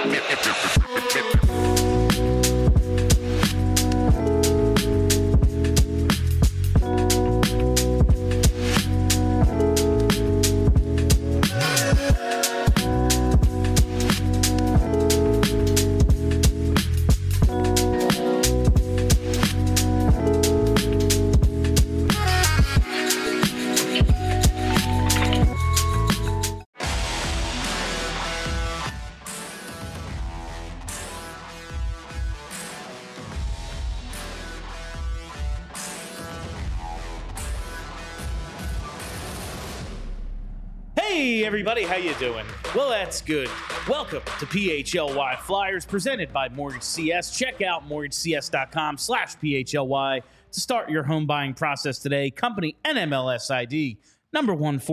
Hey everybody, how you doing? Well, that's good. Welcome to PHLY Flyers presented by Mortgage CS. Check out mortgagecs.com/PHLY to start your home buying process today. Company NMLS ID number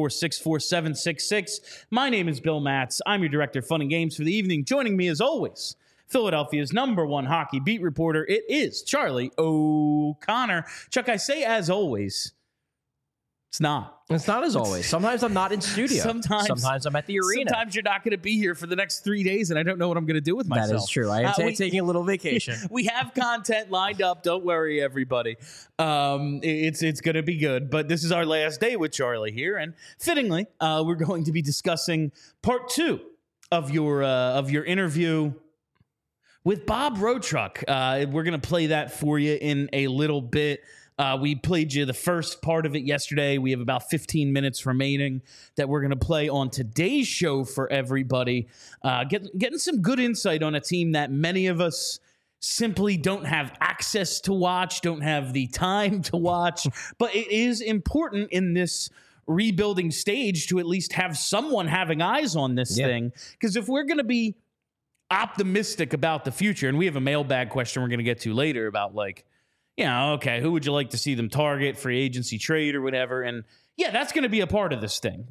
1464766. My name is Bill Matz. I'm your director of fun and games for the evening. Joining me as always, Philadelphia's #1 hockey beat reporter. It is Charlie O'Connor. Chuck, I say as always. It's not. It's not as always. Sometimes I'm not in studio. Sometimes I'm at the arena. Sometimes you're not going to be here for the next 3 days, and I don't know what I'm going to do with myself. That is true. I am taking a little vacation. We have content lined up. Don't worry, everybody. It's going to be good. But this is our last day with Charlie here, and fittingly, we're going to be discussing part 2 of your interview with Bob Roadtruck. We're going to play that for you in a little bit. We played you the first part of it yesterday. We have about 15 minutes remaining that we're going to play on today's show for everybody. Getting some good insight on a team that many of us simply don't have access to watch, don't have the time to watch. But it is important in this rebuilding stage to at least have someone having eyes on this thing. Because if we're going to be optimistic about the future, and we have a mailbag question we're going to get to later about okay, who would you like to see them target, free agency, trade, or whatever? And yeah, that's going to be a part of this thing.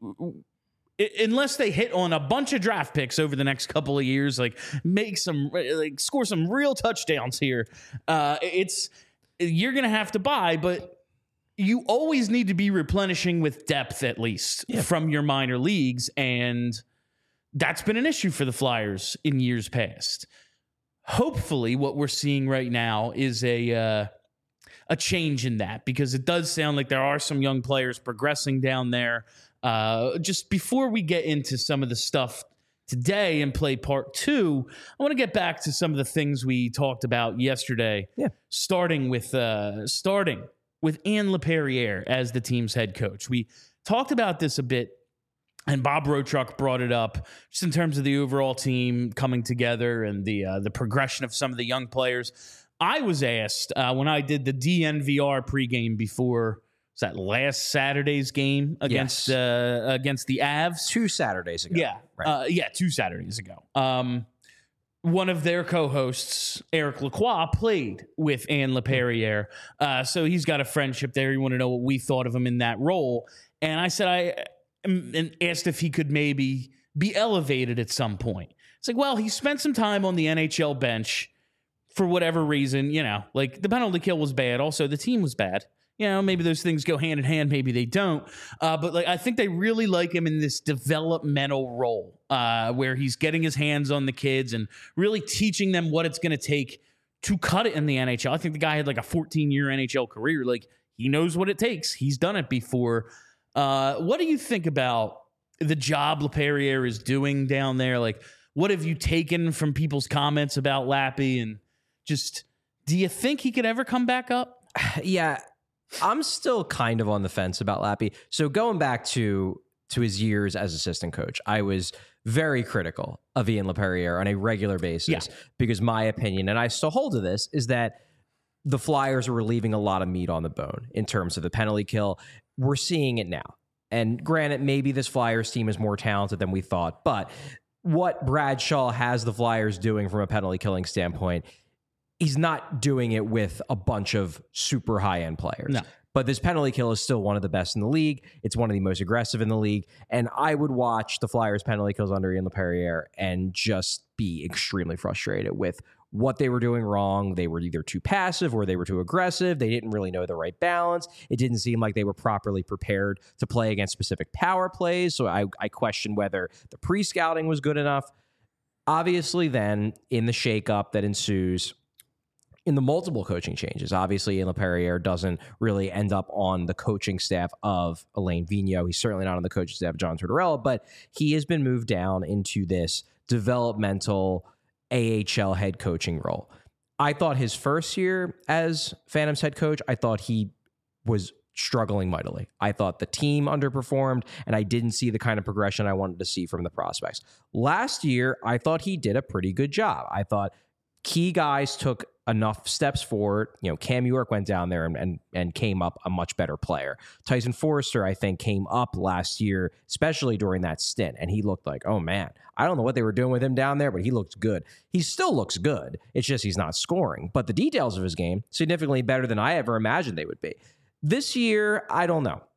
Unless they hit on a bunch of draft picks over the next couple of years, score some real touchdowns here. You're going to have to buy, but you always need to be replenishing with depth at least from your minor leagues, and that's been an issue for the Flyers in years past. Hopefully what we're seeing right now is a change in that, because it does sound like there are some young players progressing down there. Just before we get into some of the stuff today and play part 2, I want to get back to some of the things we talked about yesterday. Yeah. Starting with Ian LaPerriere as the team's head coach. We talked about this a bit, and Bob Roadtruck brought it up just in terms of the overall team coming together and the progression of some of the young players. I was asked when I did the DNVR pregame before, was that last Saturday's game against the Avs? 2 Saturdays ago. Yeah. Right. 2 Saturdays ago. One of their co-hosts, Eric Lacroix, played with Ian LaPerriere. So he's got a friendship there. He wanted to know what we thought of him in that role. And I said, and asked if he could maybe be elevated at some point. It's like, well, he spent some time on the NHL bench for whatever reason, the penalty kill was bad. Also, the team was bad. Maybe those things go hand in hand. Maybe they don't. But I think they really like him in this developmental role where he's getting his hands on the kids and really teaching them what it's going to take to cut it in the NHL. I think the guy had a 14-year NHL career. He knows what it takes. He's done it before. What do you think about the job LaPerriere is doing down there? What have you taken from people's comments about Lappy? And just, do you think he could ever come back up? Yeah, I'm still kind of on the fence about Lappy. So going back to his years as assistant coach, I was very critical of Ian LaPerriere on a regular basis because my opinion, and I still hold to this, is that the Flyers were leaving a lot of meat on the bone in terms of the penalty kill. We're seeing it now. And granted, maybe this Flyers team is more talented than we thought, but what Bradshaw has the Flyers doing from a penalty killing standpoint, he's not doing it with a bunch of super high-end players. No. But this penalty kill is still one of the best in the league. It's one of the most aggressive in the league. And I would watch the Flyers penalty kills under Ian LaPerriere and just be extremely frustrated with what they were doing wrong. They were either too passive or they were too aggressive. They didn't really know the right balance. It didn't seem like they were properly prepared to play against specific power plays. So I question whether the pre-scouting was good enough. Obviously, then in the shakeup that ensues, in the multiple coaching changes, obviously, Ian LaPerriere doesn't really end up on the coaching staff of Alain Vigneault. He's certainly not on the coaching staff of John Tortorella, but he has been moved down into this developmental AHL head coaching role. I thought his first year as Phantoms head coach, I thought he was struggling mightily. I thought the team underperformed, and I didn't see the kind of progression I wanted to see from the prospects. Last year, I thought he did a pretty good job. I thought key guys took enough steps forward. Cam York went down there and came up a much better player. Tyson Forrester, I think, came up last year, especially during that stint, and he looked like, oh man, I don't know what they were doing with him down there, but he looked good. He still looks good. It's just he's not scoring. But the details of his game, significantly better than I ever imagined they would be. This year, I don't know.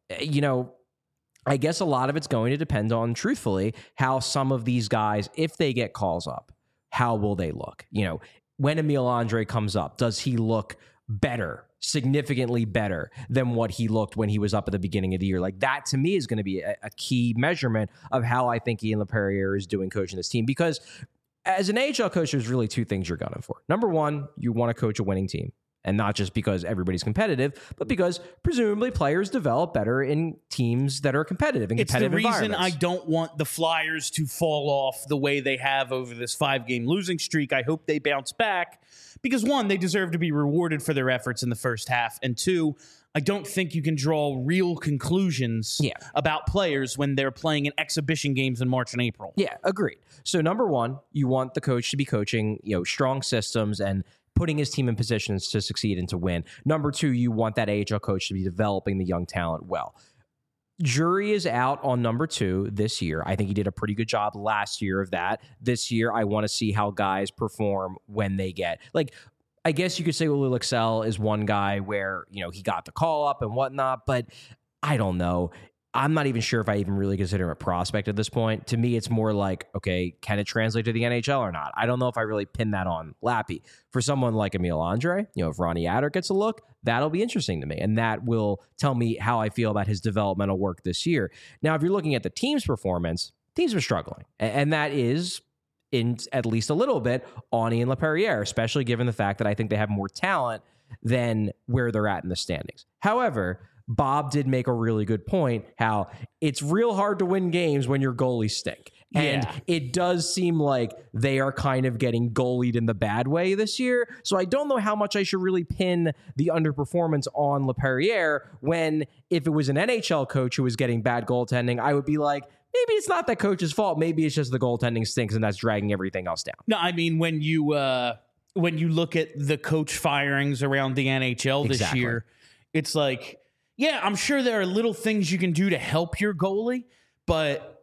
I guess a lot of it's going to depend on, truthfully, how some of these guys, if they get calls up, how will they look? When Emil Andre comes up, does he look better, significantly better than what he looked when he was up at the beginning of the year? Like, that to me is going to be a key measurement of how I think Ian LaPerriere is doing coaching this team. Because as an AHL coach, there's really two things you're gunning for. Number one, you want to coach a winning team. And not just because everybody's competitive, but because presumably players develop better in teams that are competitive, in competitive environments. It's the reason I don't want the Flyers to fall off the way they have over this 5-game losing streak. I hope they bounce back because, one, they deserve to be rewarded for their efforts in the first half. And two, I don't think you can draw real conclusions about players when they're playing in exhibition games in March and April. Yeah, agreed. So number one, you want the coach to be coaching, strong systems and putting his team in positions to succeed and to win. Number two, you want that AHL coach to be developing the young talent well. Jury is out on number two this year. I think he did a pretty good job last year of that. This year, I want to see how guys perform when they get, I guess you could say Uli Lexell is one guy where, he got the call up and whatnot, but I don't know. I'm not even sure if I even really consider him a prospect at this point. To me, it's more like, okay, can it translate to the NHL or not? I don't know if I really pin that on Lappy. For someone like Emil Andre, if Ronnie Adder gets a look, that'll be interesting to me. And that will tell me how I feel about his developmental work this year. Now, if you're looking at the team's performance, teams are struggling. And that is, in at least a little bit, on Ian LaPerriere, especially given the fact that I think they have more talent than where they're at in the standings. However, Bob did make a really good point, how it's real hard to win games when your goalies stink. And it does seem like they are kind of getting goalied in the bad way this year. So I don't know how much I should really pin the underperformance on LaPerriere when, if it was an NHL coach who was getting bad goaltending, I would be like, maybe it's not that coach's fault. Maybe it's just the goaltending stinks and that's dragging everything else down. No, I mean, when you look at the coach firings around the NHL this year, it's like, yeah, I'm sure there are little things you can do to help your goalie, but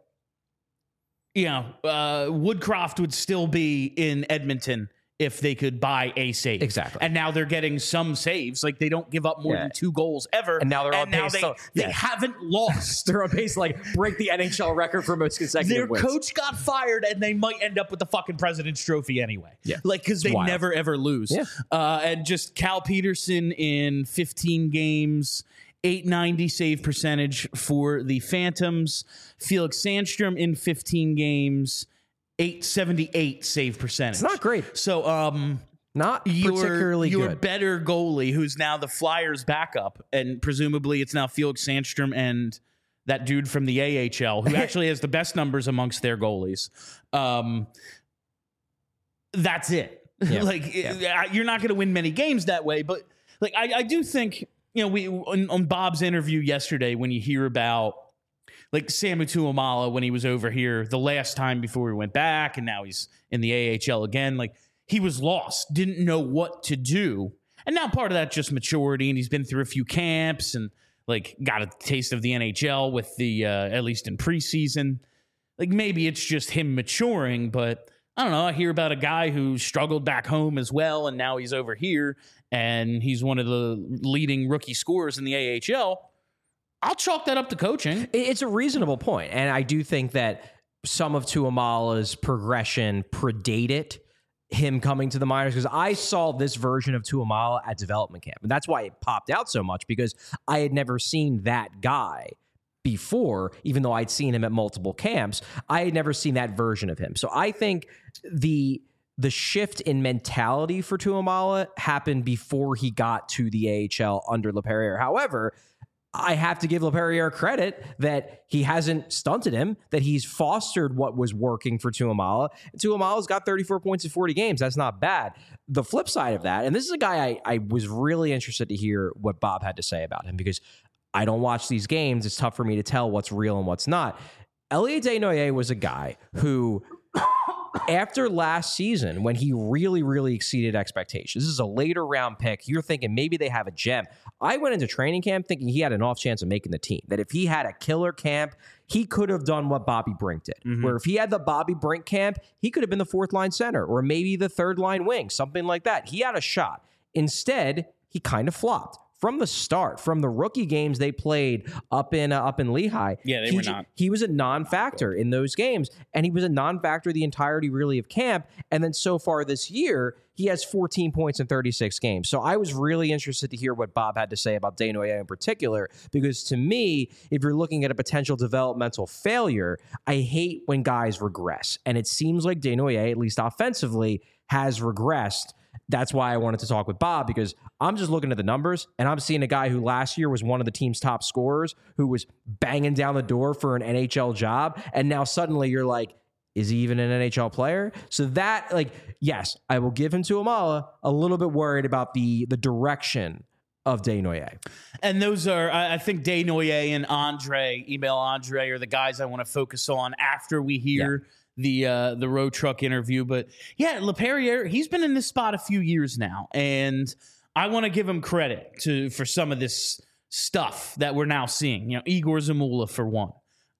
Woodcroft would still be in Edmonton if they could buy a save. Exactly. And now they're getting some saves. Like, they don't give up more than 2 goals ever. And now they're on pace. They haven't lost. They're on pace to break the NHL record for most consecutive wins. Their coach got fired, and they might end up with the fucking President's Trophy anyway. Yeah. Because they never, ever lose. Yeah. And just Cal Peterson in 15 games, .890 save percentage for the Phantoms. Felix Sandstrom in 15 games, .878 save percentage. It's not great. So, not particularly good. Your better goalie, who's now the Flyers' backup, and presumably it's now Felix Sandstrom and that dude from the AHL, who actually has the best numbers amongst their goalies. That's it. Yeah. You're not going to win many games that way, but I do think, we on Bob's interview yesterday, when you hear about Samu Tuomala when he was over here the last time before we went back, and now he's in the AHL again, he was lost, didn't know what to do. And now part of that just maturity, and he's been through a few camps and got a taste of the NHL with the at least in preseason. Maybe it's just him maturing, but I don't know. I hear about a guy who struggled back home as well, and now he's over here, and he's one of the leading rookie scorers in the AHL. I'll chalk that up to coaching. It's a reasonable point, and I do think that some of Tuomala's progression predated him coming to the minors, because I saw this version of Tuomala at development camp, and that's why it popped out so much, because I had never seen that guy before, even though I'd seen him at multiple camps. I had never seen that version of him. So I think the shift in mentality for Tuamala happened before he got to the AHL under LaPerriere. However, I have to give LaPerriere credit that he hasn't stunted him, that he's fostered what was working for Tuamala. Tuamala's got 34 points in 40 games. That's not bad. The flip side of that, and this is a guy I was really interested to hear what Bob had to say about him, because I don't watch these games. It's tough for me to tell what's real and what's not. Elliot Desnoyers was a guy who, after last season, when he really, really exceeded expectations, this is a later round pick. You're thinking maybe they have a gem. I went into training camp thinking he had an off chance of making the team, that if he had a killer camp, he could have done what Bobby Brink did, where if he had the Bobby Brink camp, he could have been the fourth line center or maybe the third line wing, something like that. He had a shot. Instead, he kind of flopped. From the start, from the rookie games they played up in Lehigh, they were not. He was a non-factor in those games, and he was a non-factor the entirety really of camp. And then so far this year, he has 14 points in 36 games. So I was really interested to hear what Bob had to say about Desnoyers in particular, because to me, if you're looking at a potential developmental failure, I hate when guys regress. And it seems like Desnoyers, at least offensively, has regressed. That's why I wanted to talk with Bob, because I'm just looking at the numbers and I'm seeing a guy who last year was one of the team's top scorers, who was banging down the door for an NHL job. And now suddenly you're like, is he even an NHL player? So that, like, yes, I will give him to Amala. A little bit worried about the direction of Desnoyers. And those are, I think Desnoyers and Emile Andre are the guys I want to focus on after we hear the road truck interview. But yeah, LaPerriere, he's been in this spot a few years now, and I want to give him credit for some of this stuff that we're now seeing. You know, Igor Zamula for one.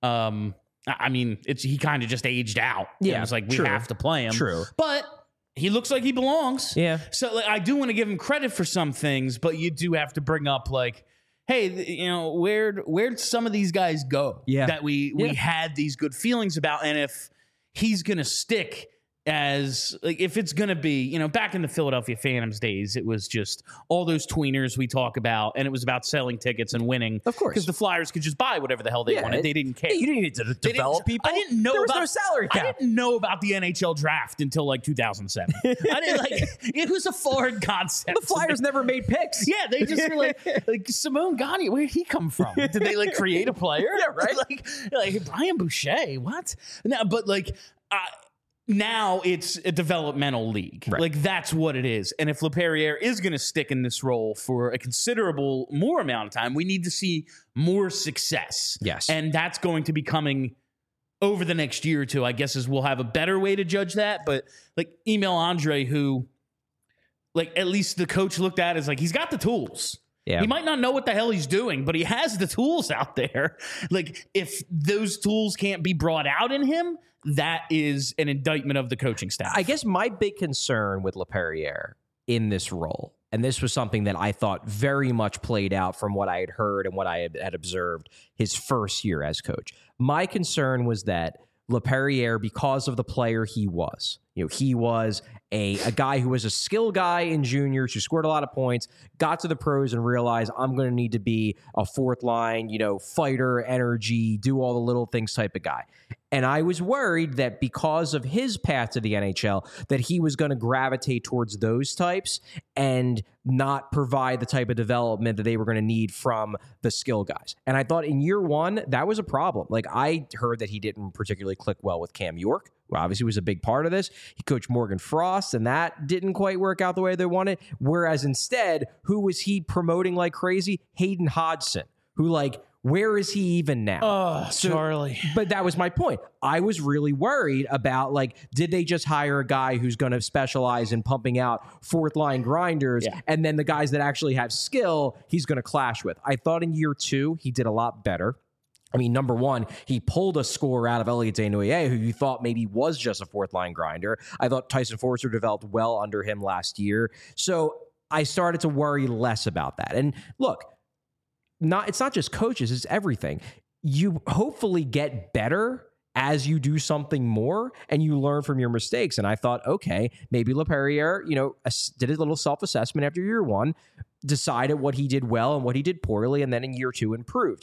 I mean, he kind of just aged out. Yeah, it's like we have to play him. True, but he looks like he belongs. Yeah. So like, I do want to give him credit for some things, but you do have to bring up like, hey, you know, where'd some of these guys go? Yeah. That we had these good feelings about, and if he's going to stick as, like, if it's going to be, you know, back in the Philadelphia Phantoms days, it was just all those tweeners we talk about, and it was about selling tickets and winning. Of course. Because the Flyers could just buy whatever the hell they wanted. They didn't care. You didn't need to develop people. I didn't know there was about, no salary cap. I didn't know about the NHL draft until like 2007. I didn't it was a foreign concept. The Flyers never made picks. Yeah, they just were like Simone Gagne, where'd he come from? Did they like create a player? Yeah, right. like Brian Boucher, what? No, but like now it's a developmental league. Right. Like that's what it is. And if LaPerriere is going to stick in this role for a considerable more amount of time, we need to see more success. Yes. And that's going to be coming over the next year or two, I guess, is we'll have a better way to judge that. But like Emile Andre, who like at least the coach looked at as like, he's got the tools. Yeah. He might not know what the hell he's doing, but he has the tools out there. Like if those tools can't be brought out in him, that is an indictment of the coaching staff. I guess my big concern with LaPerriere in this role, and this was something that I thought very much played out from what I had heard and what I had observed his first year as coach. My concern was that LaPerriere, because of the player he was, you know, he was a guy who was a skill guy in juniors who scored a lot of points, got to the pros and realized I'm going to need to be a fourth line, you know, fighter, energy, do all the little things type of guy. And I was worried that because of his path to the NHL, that he was going to gravitate towards those types and not provide the type of development that they were going to need from the skill guys. And I thought in year one, that was a problem. Like I heard that he didn't particularly click well with Cam York, who obviously was a big part of this. He coached Morgan Frost, and that didn't quite work out the way they wanted. Whereas instead, who was he promoting like crazy? Hayden Hodgson, who like, where is he even now? Oh, Charlie. But that was my point. I was really worried about, like, did they just hire a guy who's going to specialize in pumping out fourth line grinders, and then the guys that actually have skill, he's going to clash with? I thought in year two, he did a lot better. I mean, number one, he pulled a score out of Elliot Desnoyers, who you thought maybe was just a fourth line grinder. I thought Tyson Forster developed well under him last year. So I started to worry less about that. And look, it's not just coaches, it's everything. You hopefully get better as you do something more and you learn from your mistakes. And I thought, okay, maybe LaPerriere, you know, did a little self-assessment after year one, decided what he did well and what he did poorly, and then in year two improved.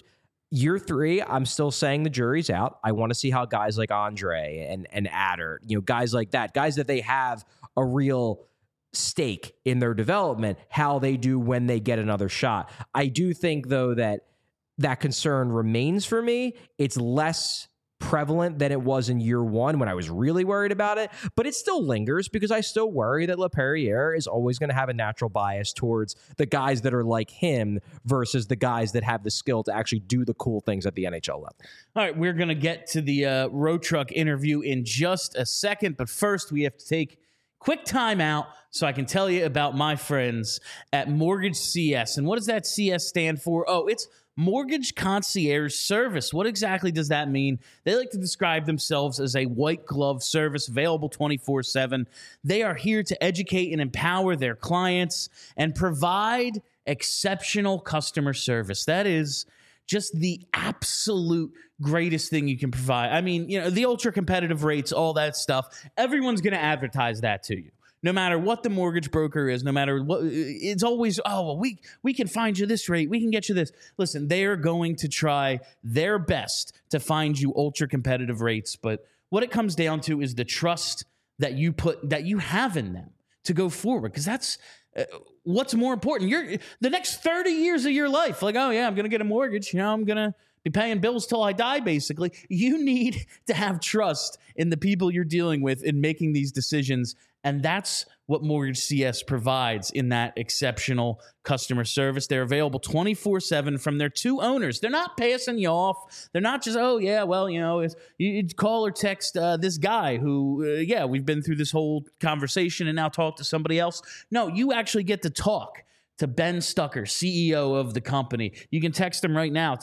Year 3, I'm still saying the jury's out. I want to see how guys like Andre and Adder, guys like that, guys that they have a real stake in their development, how they do when they get another shot. I do think, though, that concern remains for me. It's less prevalent than it was in year 1 when I was really worried about it, but it still lingers because I still worry that LaPerriere is always going to have a natural bias towards the guys that are like him versus the guys that have the skill to actually do the cool things at the NHL level. All right, we're going to get to the Road Truck interview in just a second, but first we have to take quick time out so I can tell you about my friends at Mortgage CS. And what does that CS stand for? Oh, it's Mortgage Concierge Service. What exactly does that mean? They like to describe themselves as a white glove service available 24/7. They are here to educate and empower their clients and provide exceptional customer service. That is just the absolute greatest thing you can provide. I mean, the ultra competitive rates, all that stuff. Everyone's going to advertise that to you. No matter what the mortgage broker is, no matter what, it's always, oh, well, we can find you this rate. We can get you this. Listen, they are going to try their best to find you ultra competitive rates. But what it comes down to is the trust that you have in them to go forward. Because that's what's more important. The next 30 years of your life, like, oh yeah, I'm going to get a mortgage. I'm going to be paying bills till I die, basically. You need to have trust in the people you're dealing with in making these decisions. And that's what Mortgage CS provides in that exceptional customer service. They're available 24/7 from their 2 owners. They're not passing you off. They're not just, oh, yeah, well, you call or text this guy who, we've been through this whole conversation and now talk to somebody else. No, you actually get to talk to Ben Stucker, CEO of the company. You can text him right now,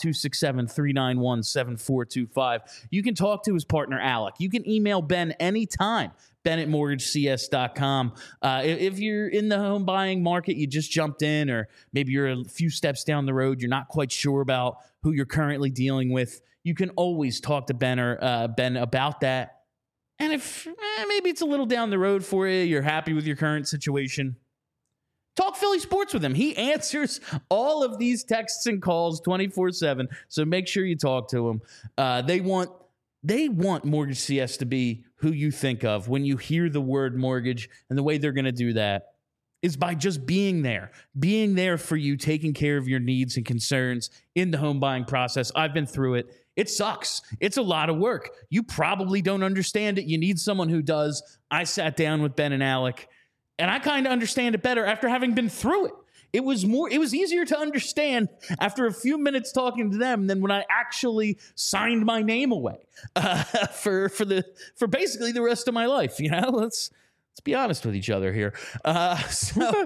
267-391-7425. You can talk to his partner, Alec. You can email Ben anytime, ben@mortgagecs.com. If you're in the home buying market, you just jumped in, or maybe you're a few steps down the road, you're not quite sure about who you're currently dealing with, you can always talk to Ben about that. And if maybe it's a little down the road for you, you're happy with your current situation, talk Philly sports with him. He answers all of these texts and calls 24/7. So make sure you talk to him. They want Mortgage CS to be who you think of when you hear the word mortgage, and the way they're going to do that is by just being there for you, taking care of your needs and concerns in the home buying process. I've been through it. It sucks. It's a lot of work. You probably don't understand it. You need someone who does. I sat down with Ben and Alec, and I kind of understand it better after having been through it. It was easier to understand after a few minutes talking to them than when I actually signed my name away for basically the rest of my life. Let's be honest with each other here. So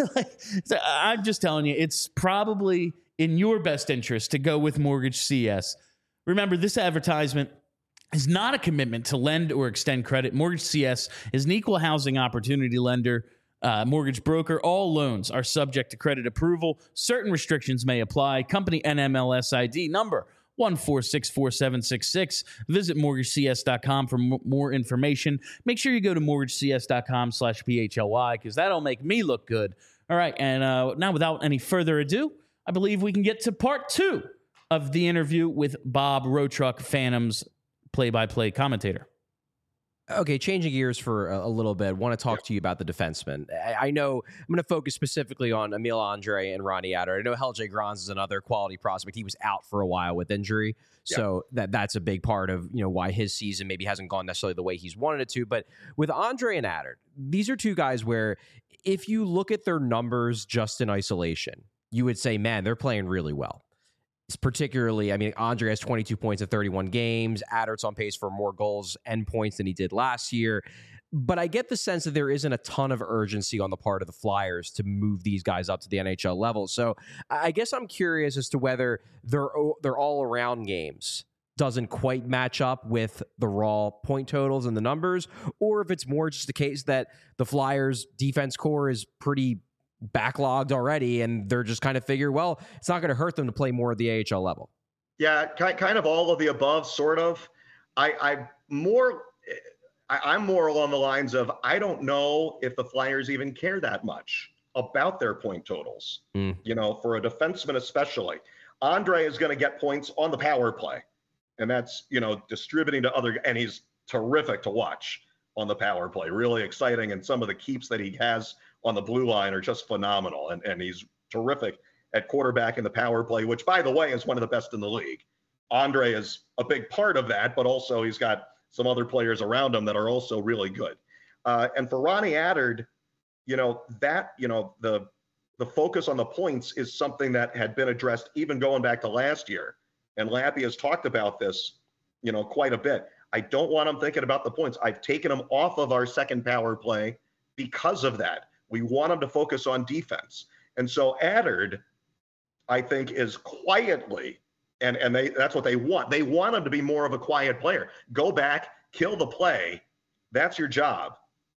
I'm just telling you, it's probably in your best interest to go with Mortgage CS. Remember, this advertisement is not a commitment to lend or extend credit. Mortgage CS is an equal housing opportunity lender, mortgage broker. All loans are subject to credit approval. Certain restrictions may apply. Company NMLS ID number 1464766. Visit mortgagecs.com for more information. Make sure you go to mortgagecs.com/PHLY, because that'll make me look good. All right, and now without any further ado, I believe we can get to part 2 of the interview with Bob Road Truck Phantom's play-by-play commentator. Okay, changing gears for a little bit. Want to talk to you about the defensemen. I know I'm going to focus specifically on Emil Andre and Ronnie Adder. I know Helge Grans is another quality prospect. He was out for a while with injury, so that's a big part of why his season maybe hasn't gone necessarily the way he's wanted it to. But with Andre and Adder, these are 2 guys where if you look at their numbers just in isolation, you would say, man, they're playing really well. Particularly, Andre has 22 points in 31 games. Adder's on pace for more goals and points than he did last year. But I get the sense that there isn't a ton of urgency on the part of the Flyers to move these guys up to the NHL level. So I guess I'm curious as to whether their all-around games doesn't quite match up with the raw point totals and the numbers, or if it's more just a case that the Flyers defense core is pretty backlogged already, and they're just kind of figure, well, it's not going to hurt them to play more at the AHL level. Yeah, kind of all of the above, sort of. I'm more along the lines of, I don't know if the Flyers even care that much about their point totals, for a defenseman especially. Andre is going to get points on the power play, and that's, distributing to other, and he's terrific to watch on the power play. Really exciting, and some of the keeps that he has on the blue line are just phenomenal, and he's terrific at quarterback in the power play, which, by the way, is one of the best in the league. Andre is a big part of that, but also he's got some other players around him that are also really good. And for Ronnie Attard, the focus on the points is something that had been addressed even going back to last year. And Lappy has talked about this, quite a bit. I don't want him thinking about the points. I've taken him off of our second power play because of that. We want him to focus on defense. And so Attard, I think, is quietly, and that's what they want. They want him to be more of a quiet player. Go back, kill the play. That's your job,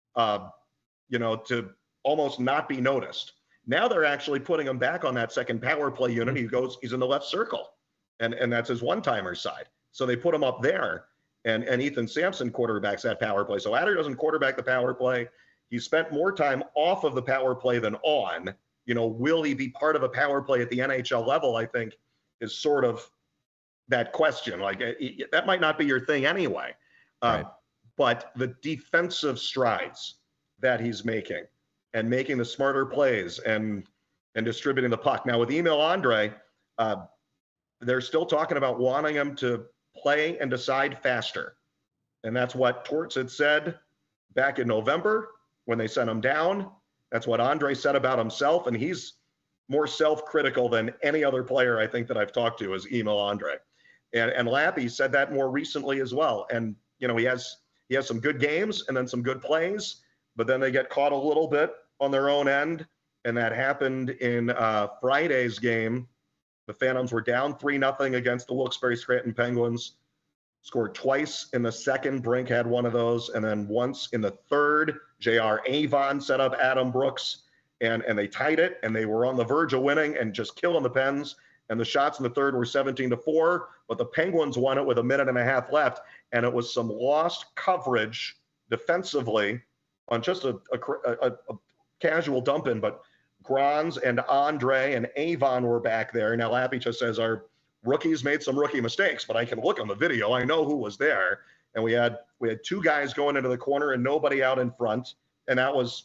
to almost not be noticed. Now they're actually putting him back on that second power play unit. He's in the left circle, and that's his one-timer side. So they put him up there, and Ethan Sampson quarterbacks that power play. So Attard doesn't quarterback the power play. He spent more time off of the power play than on. Will he be part of a power play at the NHL level, I think, is sort of that question. Like, that might not be your thing anyway. Right. But the defensive strides that he's making, and making the smarter plays and distributing the puck. Now with Emil Andre, they're still talking about wanting him to play and decide faster. And that's what Torts had said back in November when they sent him down. That's what Andre said about himself. And he's more self-critical than any other player I think that I've talked to is Emil Andre. And Lappy said that more recently as well. And, he has some good games and then some good plays, but then they get caught a little bit on their own end, and that happened in Friday's game. The Phantoms were down 3-0 against the Wilkes-Barre Scranton Penguins, scored twice in the second. Brink had one of those, and then once in the third. J.R. Avon set up Adam Brooks, and they tied it, and they were on the verge of winning and just killing the Pens. And the shots in the third were 17-4, but the Penguins won it with a minute and a half left, and it was some lost coverage defensively on just a casual dump in, but Granz and Andre and Avon were back there. Now Lappy just says our rookies made some rookie mistakes, but I can look on the video. I know who was there. And we had two guys going into the corner and nobody out in front. And that was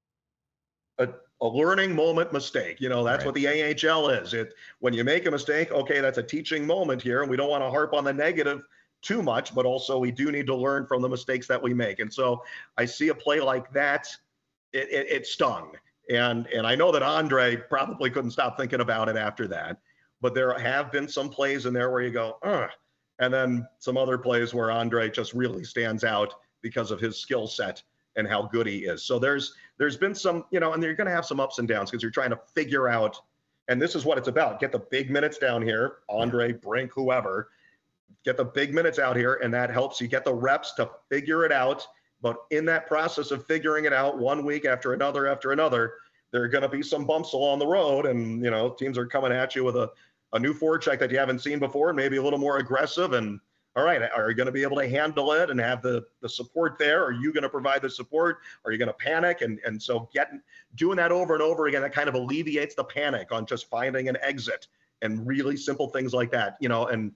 a learning moment mistake. That's right. What the AHL is. When you make a mistake, okay, that's a teaching moment here. And we don't want to harp on the negative too much, but also we do need to learn from the mistakes that we make. And so I see a play like that. It stung. And I know that Andre probably couldn't stop thinking about it after that, but there have been some plays in there where you go, ugh. And then some other plays where Andre just really stands out because of his skill set and how good he is. So there's been some, and you're going to have some ups and downs because you're trying to figure out, and this is what it's about. Get the big minutes down here, Andre, Brink, whoever, get the big minutes out here, and that helps you get the reps to figure it out. But in that process of figuring it out 1 week after another, there are going to be some bumps along the road. And, teams are coming at you with a new forecheck that you haven't seen before, and maybe a little more aggressive. And all right, are you going to be able to handle it and have the support there? Are you going to provide the support? Are you going to panic? And so doing that over and over again, that kind of alleviates the panic on just finding an exit and really simple things like that, and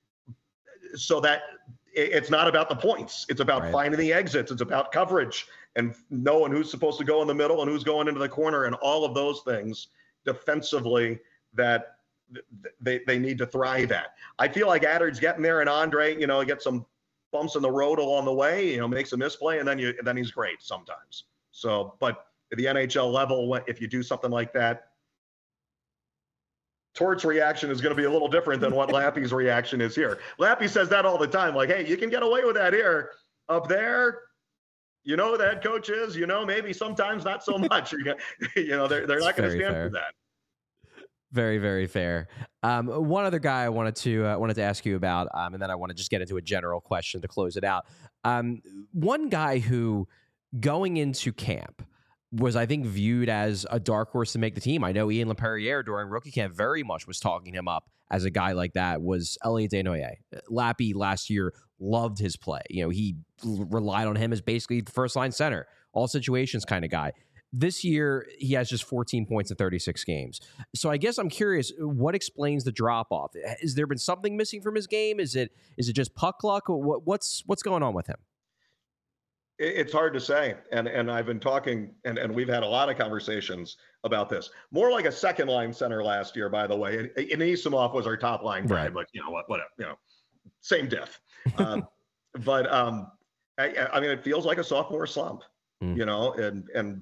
so that it's not about the points. It's about finding the exits. It's about coverage and knowing who's supposed to go in the middle and who's going into the corner and all of those things defensively that they need to thrive at. I feel like Attard's getting there, and Andre, gets some bumps in the road along the way, makes a misplay, and then he's great sometimes. So, but at the NHL level, if you do something like that, Tort's reaction is going to be a little different than what Lappy's reaction is here. Lappy says that all the time, like, hey, you can get away with that here. Up there, who the head coach is, maybe sometimes not so much. They're not going to stand for that. Very, very fair. One other guy I wanted to ask you about, and then I want to just get into a general question to close it out. One guy who, going into camp, was, I think, viewed as a dark horse to make the team. I know Ian LaPerriere during rookie camp very much was talking him up as a guy like that, was Elliot Desnoyers. Lappy last year loved his play. He relied on him as basically the first line center, all situations kind of guy. This year, he has just 14 points in 36 games. So I guess I'm curious, what explains the drop off? Has there been something missing from his game? Is it just puck luck? What's going on with him? It's hard to say. And I've been talking, and we've had a lot of conversations about this. More like a second line center last year, by the way. And Anisimov was our top line guy, but whatever, same diff. But I mean, it feels like a sophomore slump, and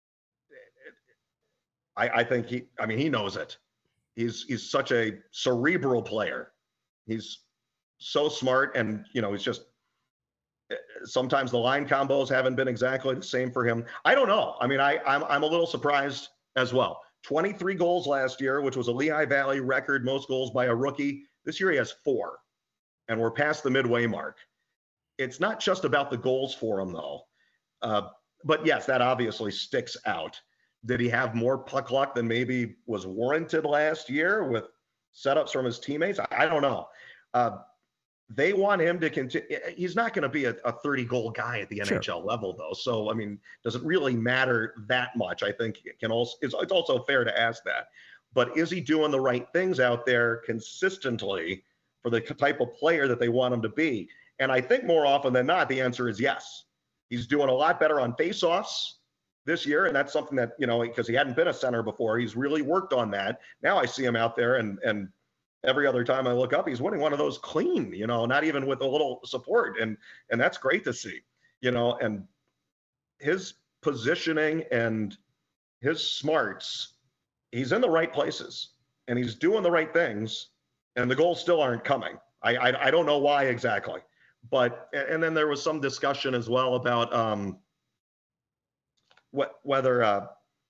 I think he knows it. He's such a cerebral player. He's so smart, and he's just, sometimes the line combos haven't been exactly the same for him. I don't know. I mean, I'm a little surprised as well. 23 goals last year, which was a Lehigh Valley record, most goals by a rookie. This year he has 4, and we're past the midway mark. It's not just about the goals for him, though. But yes, that obviously sticks out. Did he have more puck luck than maybe was warranted last year with setups from his teammates? I don't know. They want him to continue. He's not going to be a 30-goal guy at the NHL level, though. So, I mean, does it really matter that much? I think it's also fair to ask that. But is he doing the right things out there consistently for the type of player that they want him to be? And I think more often than not, the answer is yes. He's doing a lot better on faceoffs this year, and that's something that, because he hadn't been a center before, he's really worked on that. Now I see him out there, and every other time I look up, he's winning one of those clean, not even with a little support, and that's great to see, and his positioning and his smarts, he's in the right places, and he's doing the right things, and the goals still aren't coming. I don't know why exactly, but, and then there was some discussion as well about whether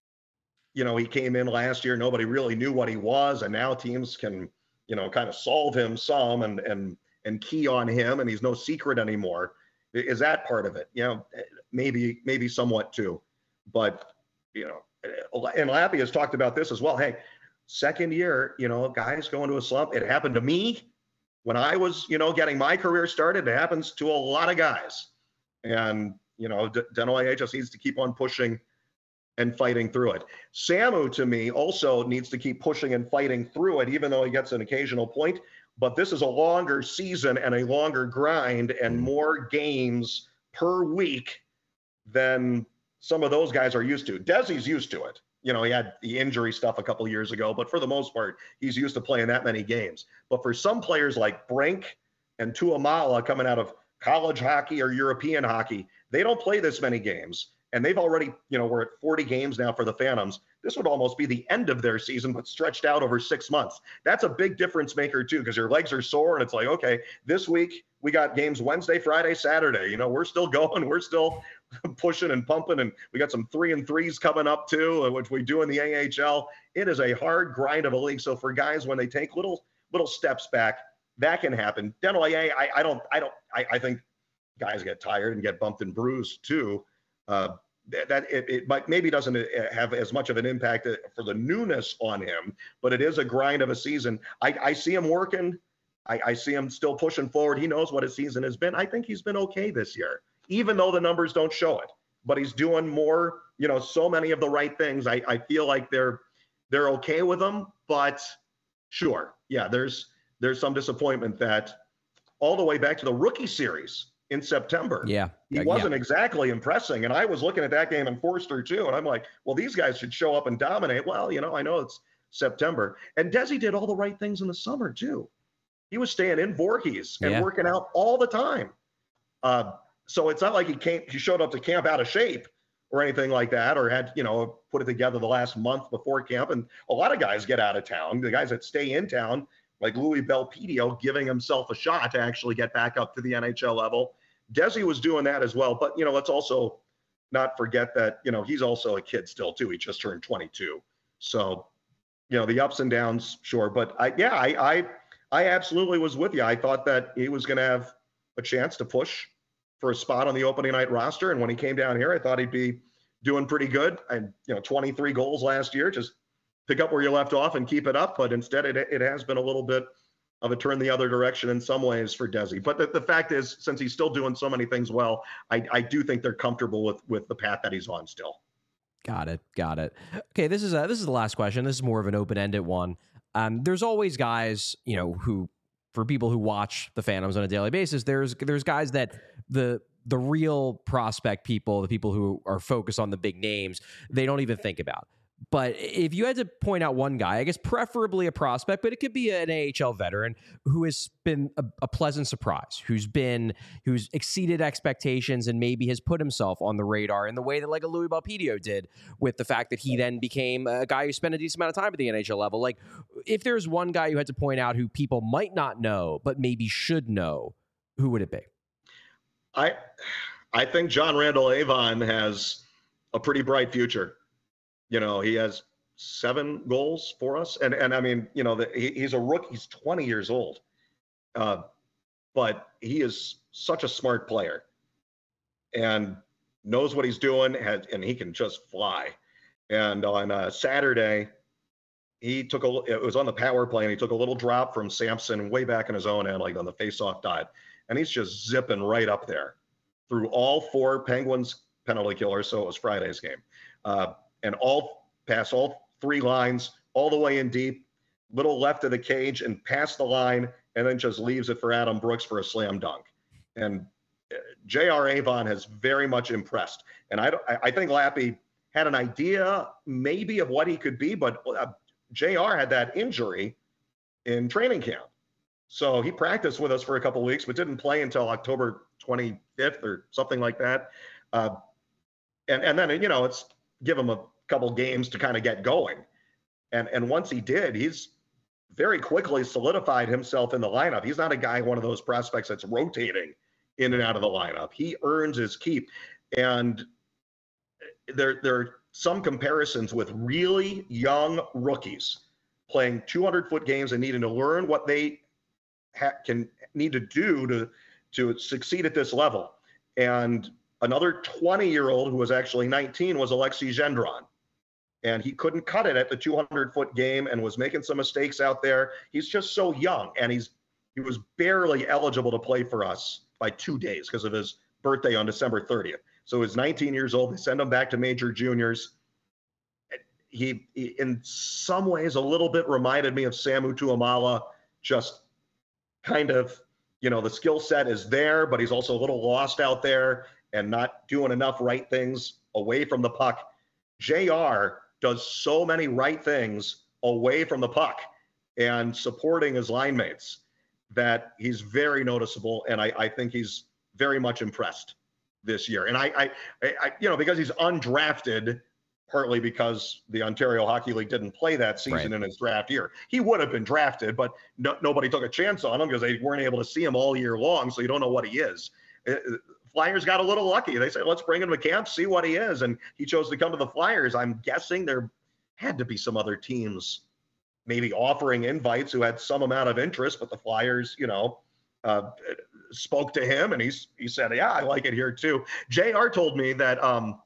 he came in last year, nobody really knew what he was, and now teams can kind of solve him some and key on him, and he's no secret anymore. Is that part of it? Maybe somewhat too, but and Lappy has talked about this as well. Hey, second year, guys going to a slump. It happened to me when I was getting my career started. It happens to a lot of guys, and Desnoyers just needs to keep on pushing and fighting through it. Samu, to me, also needs to keep pushing and fighting through it, even though he gets an occasional point. But this is a longer season and a longer grind and more games per week than some of those guys are used to. Desi's used to it. He had the injury stuff a couple of years ago, but for the most part, he's used to playing that many games. But for some players like Brink and Tuamala coming out of college hockey or European hockey, they don't play this many games. And they've already, we're at 40 games now for the Phantoms. This would almost be the end of their season, but stretched out over 6 months. That's a big difference maker, too, because your legs are sore. And it's like, okay, this week we got games Wednesday, Friday, Saturday. We're still going. We're still pushing and pumping. And we got some 3-3s coming up, too, which we do in the AHL. It is a hard grind of a league. So for guys, when they take little steps back, that can happen. Desnoyers, I think guys get tired and get bumped and bruised, too. That it might maybe doesn't have as much of an impact for the newness on him, but it is a grind of a season. I see him working. I see him still pushing forward. He knows what his season has been. I think he's been okay this year, even though the numbers don't show it. But he's doing more, so many of the right things. I feel like they're okay with him. But sure, yeah, there's some disappointment that all the way back to the rookie series in September. Yeah. He wasn't exactly impressing. And I was looking at that game in Forster too. And I'm like, well, these guys should show up and dominate. Well, I know it's September. And Desi did all the right things in the summer too. He was staying in Voorhees and working out all the time. So it's not like he showed up to camp out of shape or anything like that, or had, put it together the last month before camp. And a lot of guys get out of town. The guys that stay in town, like Louis Belpedio, giving himself a shot to actually get back up to the NHL level. Desi was doing that as well, but let's also not forget that he's also a kid still too. He just turned 22, so the ups and downs, sure. But I absolutely was with you. I thought that he was going to have a chance to push for a spot on the opening night roster, and when he came down here, I thought he'd be doing pretty good. And 23 goals last year, just pick up where you left off and keep it up. But instead, it has been a little bit of a turn the other direction in some ways for Desi. But the fact is, since he's still doing so many things well, I do think they're comfortable with the path that he's on still. Got it. Okay, this is the last question. This is more of an open-ended one. There's always guys, who, for people who watch the Phantoms on a daily basis, there's guys that the real prospect people, the people who are focused on the big names, they don't even think about. But if you had to point out one guy, I guess preferably a prospect, but it could be an AHL veteran who has been a pleasant surprise, who's exceeded expectations and maybe has put himself on the radar in the way that like a Louis Belpedio did, with the fact that he then became a guy who spent a decent amount of time at the NHL level. Like, if there's one guy you had to point out who people might not know but maybe should know, who would it be? I think John Randall Avon has a pretty bright future. He has 7 goals for us. And I mean, he's a rookie. He's 20 years old. But he is such a smart player and knows what he's doing, and he can just fly. And on Saturday, it was on the power play, and he took a little drop from Sampson way back in his own end, like on the face-off dot. And he's just zipping right up there through all 4 Penguins penalty killers. So it was Friday's game. And pass all 3 lines all the way in deep, little left of the cage and past the line, and then just leaves it for Adam Brooks for a slam dunk. And J.R. Avon has very much impressed. And I think Lappy had an idea maybe of what he could be, but J.R. had that injury in training camp. So he practiced with us for a couple of weeks, but didn't play until October 25th or something like that. And then, it's give him a couple games to kind of get going. And once he did, he's very quickly solidified himself in the lineup. He's not a guy, one of those prospects that's rotating in and out of the lineup. He earns his keep. And there are some comparisons with really young rookies playing 200-foot games and needing to learn what they need to do to succeed at this level. And another 20-year-old who was actually 19 was Alexei Gendron. And he couldn't cut it at the 200-foot game and was making some mistakes out there. He's just so young, and he was barely eligible to play for us by 2 days because of his birthday on December 30th. So he's 19 years old. They send him back to major juniors. He in some ways, a little bit reminded me of Samu Tuamala, just kind of, the skill set is there, but he's also a little lost out there and not doing enough right things away from the puck. JR does so many right things away from the puck and supporting his line mates that he's very noticeable. And I think he's very much impressed this year. And I because he's undrafted, partly because the Ontario Hockey League didn't play that season in his draft year. He would have been drafted, but nobody took a chance on him because they weren't able to see him all year long. So you don't know what he is. Flyers got a little lucky. They said, let's bring him to camp, see what he is. And he chose to come to the Flyers. I'm guessing there had to be some other teams maybe offering invites who had some amount of interest, but the Flyers, spoke to him and he said, yeah, I like it here too. JR told me that,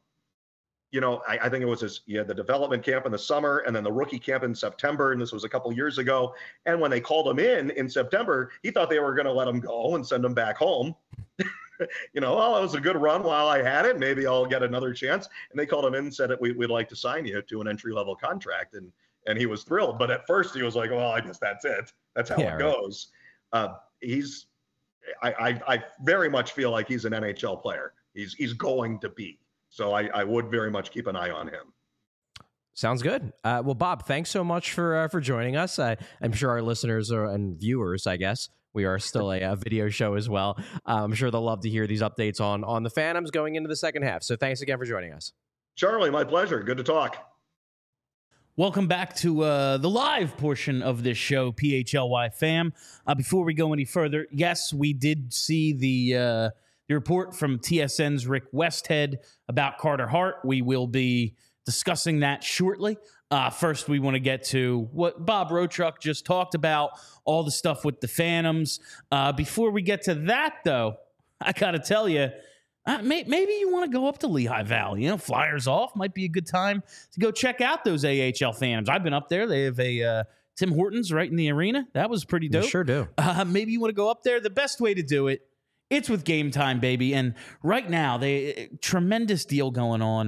I think it was he had the development camp in the summer and then the rookie camp in September. And this was a couple years ago. And when they called him in September, he thought they were going to let him go and send him back home. Well, it was a good run while I had it. Maybe I'll get another chance. And they called him in and said, we'd like to sign you to an entry-level contract. And he was thrilled. But at first he was like, well, I guess that's it. That's how it goes. I very much feel like he's an NHL player. He's going to be. So I would very much keep an eye on him. Sounds good. Well, Bob, thanks so much for joining us. I'm sure our listeners and viewers, I guess, we are still a video show as well. I'm sure they'll love to hear these updates on the Phantoms going into the second half. So thanks again for joining us. Charlie, my pleasure. Good to talk. Welcome back to the live portion of this show, PHLY fam. Before we go any further, yes, we did see the report from TSN's Rick Westhead about Carter Hart. We will be discussing that shortly. First, we want to get to what Bob Rochuk just talked about, all the stuff with the Phantoms. Before we get to that, though, I got to tell you, maybe you want to go up to Lehigh Valley. Flyers off. Might be a good time to go check out those AHL Phantoms. I've been up there. They have a Tim Hortons right in the arena. That was pretty dope. You sure do. Maybe you want to go up there. The best way to do it, it's with Game Time, baby. And right now, tremendous deal going on.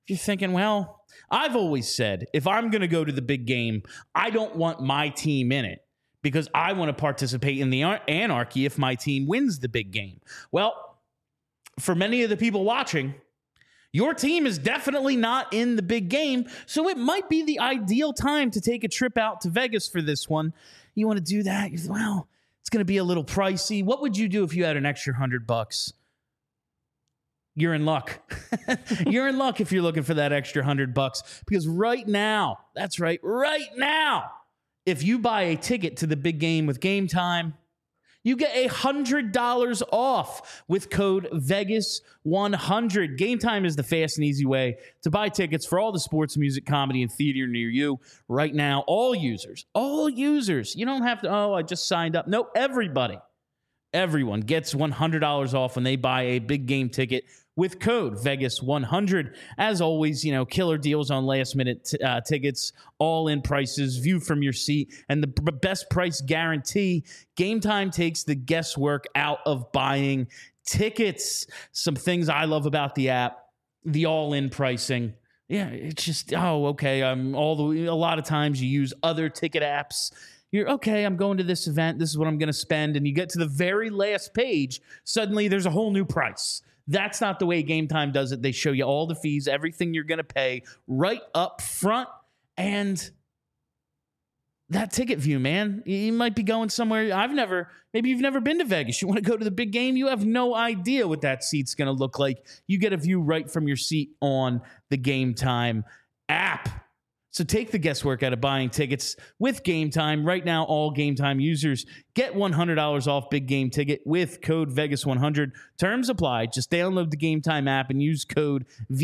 you're thinking, well, I've always said, if I'm going to go to the big game, I don't want my team in it because I want to participate in the anarchy if my team wins the big game. Well, for many of the people watching, your team is definitely not in the big game, so it might be the ideal time to take a trip out to Vegas for this one. You want to do that? Well, it's going to be a little pricey. What would you do if you had an extra $100? You're in luck. You're in luck if you're looking for that extra $100 because right now, that's right, right now, if you buy a ticket to the big game with Game Time, you get $100 off with code Vegas100. Game Time is the fast and easy way to buy tickets for all the sports, music, comedy, and theater near you. Right now, all users, you don't have to, I just signed up. No, everyone gets $100 off when they buy a big game ticket with code Vegas100. As always, killer deals on last-minute tickets, all-in prices, view from your seat, and the best price guarantee. Game Time takes the guesswork out of buying tickets. Some things I love about the app, the all-in pricing. Yeah, it's just, okay. A lot of times you use other ticket apps. You're okay, I'm going to this event. This is what I'm going to spend. And you get to the very last page. Suddenly there's a whole new price. That's not the way Game Time does it. They show you all the fees, everything you're going to pay right up front. And that ticket view, man, you might be going somewhere. Maybe you've never been to Vegas. You want to go to the big game. You have no idea what that seat's going to look like. You get a view right from your seat on the Game Time app. So take the guesswork out of buying tickets with Game Time. Right now, all Game Time users get $100 off big game ticket with code Vegas100. Terms apply. Just download the Game Time app and use code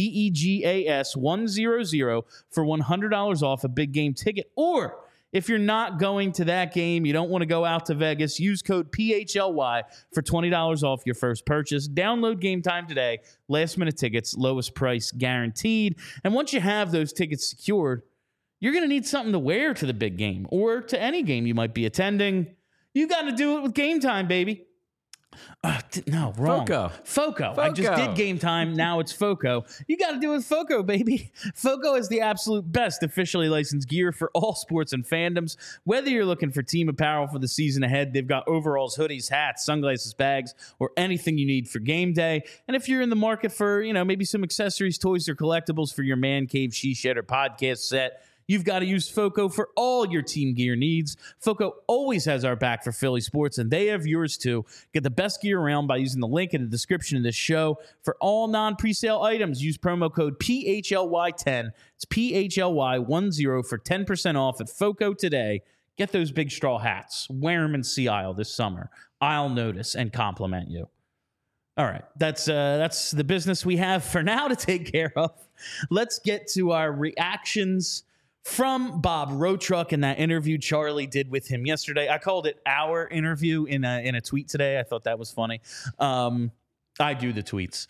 VEGAS100 for $100 off a big game ticket. Or if you're not going to that game, you don't want to go out to Vegas, use code PHLY for $20 off your first purchase. Download Game Time today. Last minute tickets, lowest price guaranteed. And once you have those tickets secured, you're going to need something to wear to the big game or to any game you might be attending. You got to do it with Game Time, baby. No, wrong. Foco. I just did Game Time. Now it's Foco. You got to do it with Foco, baby. Foco is the absolute best officially licensed gear for all sports and fandoms. Whether you're looking for team apparel for the season ahead, they've got overalls, hoodies, hats, sunglasses, bags, or anything you need for game day. And if you're in the market for, maybe some accessories, toys, or collectibles for your man cave, she shed, or podcast set, you've got to use Foco for all your team gear needs. Foco always has our back for Philly sports, and they have yours too. Get the best gear around by using the link in the description of this show. For all non-presale items, use promo code PHLY10. It's PHLY10 for 10% off at Foco today. Get those big straw hats. Wear them in Sea Isle this summer. I'll notice and compliment you. All right, that's the business we have for now to take care of. Let's get to our reactions from Bob Rotruck and that interview Charlie did with him yesterday. I called it our interview in a tweet today. I thought that was funny. I do the tweets.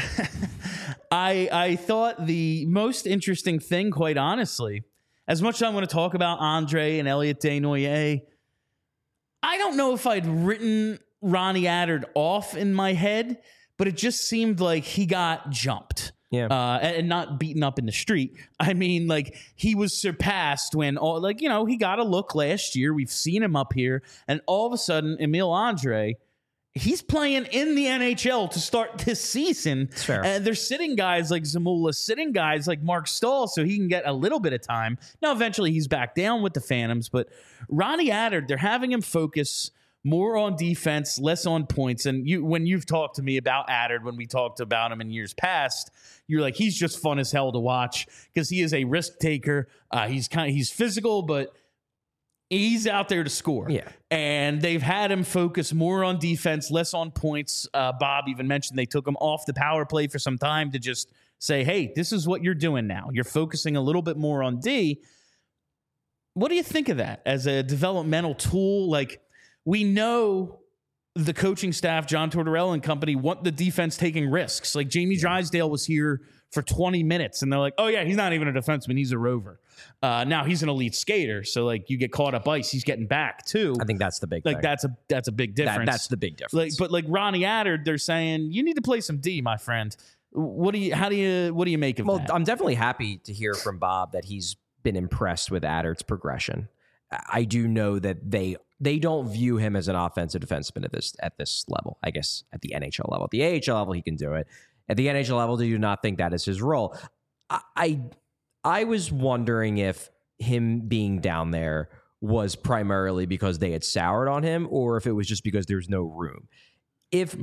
I thought the most interesting thing, quite honestly, as much as I want to talk about Andre and Elliot Desnoyers, I don't know if I'd written Ronnie Attard off in my head, but it just seemed like he got jumped. Yeah. And not beaten up in the street. I mean, he was surpassed when he got a look last year. We've seen him up here. And all of a sudden, Emile Andre, he's playing in the NHL to start this season. That's fair. And they're sitting guys like Zamula, sitting guys like Mark Stahl so he can get a little bit of time. Now, eventually he's back down with the Phantoms. But Ronnie Attard, they're having him focus more on defense, less on points. And when you've talked to me about Attard, when we talked about him in years past, you're like, he's just fun as hell to watch because he is a risk taker. He's physical, but he's out there to score. Yeah. And they've had him focus more on defense, less on points. Bob even mentioned they took him off the power play for some time to just say, hey, this is what you're doing now. You're focusing a little bit more on D. What do you think of that as a developmental tool? We know the coaching staff, John Tortorella and company, want the defense taking risks. Jamie Drysdale was here for 20 minutes, and they're like, oh, yeah, he's not even a defenseman. He's a rover. Now he's an elite skater, so, you get caught up ice, he's getting back, too. I think that's the big thing. That's a big difference. That's the big difference. But Ronnie Attard, they're saying, you need to play some D, my friend. What do you make of that? I'm definitely happy to hear from Bob that he's been impressed with Addert's progression. I do know that they don't view him as an offensive defenseman at this level. I guess at the NHL level, at the AHL level, he can do it. At the NHL level, do you not think that is his role? I was wondering if him being down there was primarily because they had soured on him, or if it was just because there's no room. If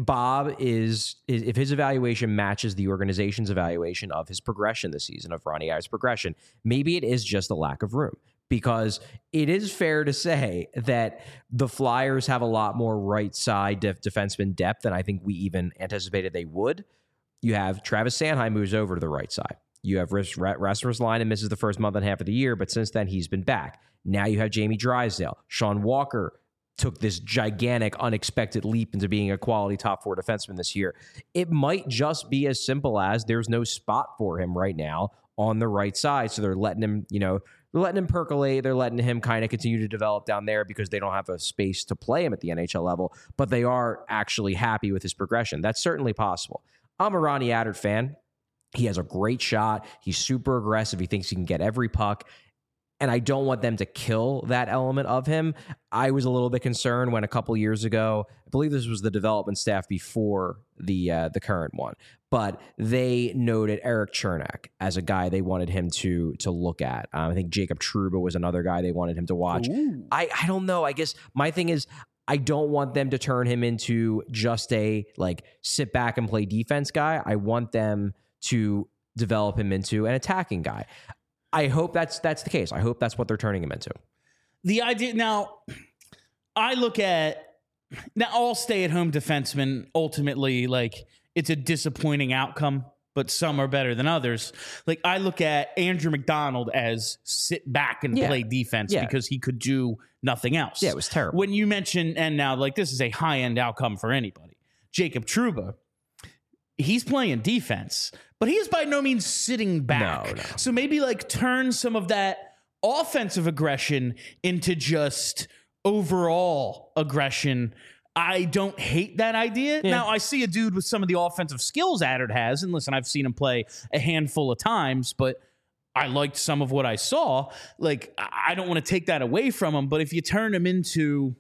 if his evaluation matches the organization's evaluation of his progression this season, of Ronnie Adder's progression, maybe it is just a lack of room. Because it is fair to say that the Flyers have a lot more right side defenseman depth than I think we even anticipated they would. You have Travis Sanheim moves over to the right side. You have Rasmus Line and misses the first month and a half of the year, but since then he's been back. Now you have Jamie Drysdale. Sean Walker took this gigantic, unexpected leap into being a quality top 4 defenseman this year. It might just be as simple as there's no spot for him right now on the right side, so they're letting him, they're letting him percolate. They're letting him kind of continue to develop down there because they don't have a space to play him at the NHL level, but they are actually happy with his progression. That's certainly possible. I'm a Ronnie Attard fan. He has a great shot. He's super aggressive. He thinks he can get every puck. And I don't want them to kill that element of him. I was a little bit concerned when a couple years ago, I believe this was the development staff before the current one, but they noted Eric Chernak as a guy they wanted him to look at. I think Jacob Trouba was another guy they wanted him to watch. I don't know. I guess my thing is I don't want them to turn him into just a sit back and play defense guy. I want them to develop him into an attacking guy. I hope that's the case. I hope that's what they're turning him into. The idea now, I look at all stay-at-home defensemen. Ultimately, it's a disappointing outcome, but some are better than others. I look at Andrew McDonald as sit back and play defense because he could do nothing else. Yeah, it was terrible. When you mention, and now this is a high-end outcome for anybody, Jacob Trouba. He's playing defense, but he is by no means sitting back. No. So maybe turn some of that offensive aggression into just overall aggression. I don't hate that idea. Yeah. Now, I see a dude with some of the offensive skills Attard has, and listen, I've seen him play a handful of times, but I liked some of what I saw. I don't want to take that away from him, but if you turn him into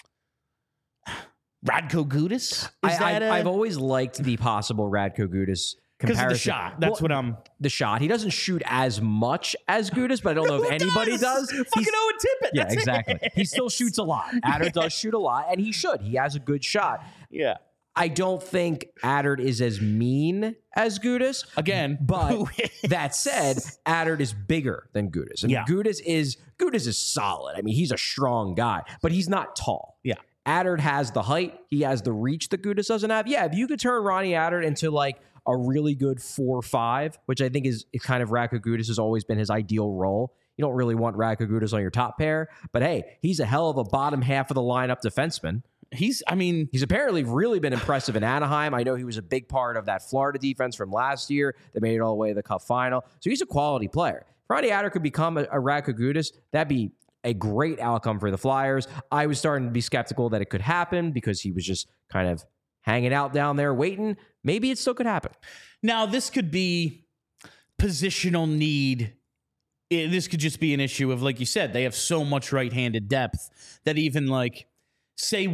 Radko Gudas? I've always liked the possible Radko Gudas comparison. Because of the shot. That's what I'm... The shot. He doesn't shoot as much as Gudas, but I don't know if anybody does. Fucking Owen Tippett. Yeah, exactly. He still shoots a lot. Attard does shoot a lot, and he should. He has a good shot. Yeah. I don't think Attard is as mean as Gudas. Again. But that said, Attard is bigger than Gudas. And Gudas is solid. I mean, he's a strong guy, but he's not tall. Yeah. Attard has the height. He has the reach that Gudas doesn't have. Yeah, if you could turn Ronnie Attard into a really good 4-5, which I think is kind of Radko Gudas has always been his ideal role. You don't really want Radko Gudas on your top pair, but hey, he's a hell of a bottom half of the lineup defenseman. He's apparently really been impressive in Anaheim. I know he was a big part of that Florida defense from last year that made it all the way to the Cup final. So he's a quality player. If Ronnie Attard could become a Radko Gudas, that'd be a great outcome for the Flyers. I was starting to be skeptical that it could happen because he was just kind of hanging out down there waiting. Maybe it still could happen. Now, this could be positional need. This could just be an issue of, like you said, they have so much right-handed depth that even say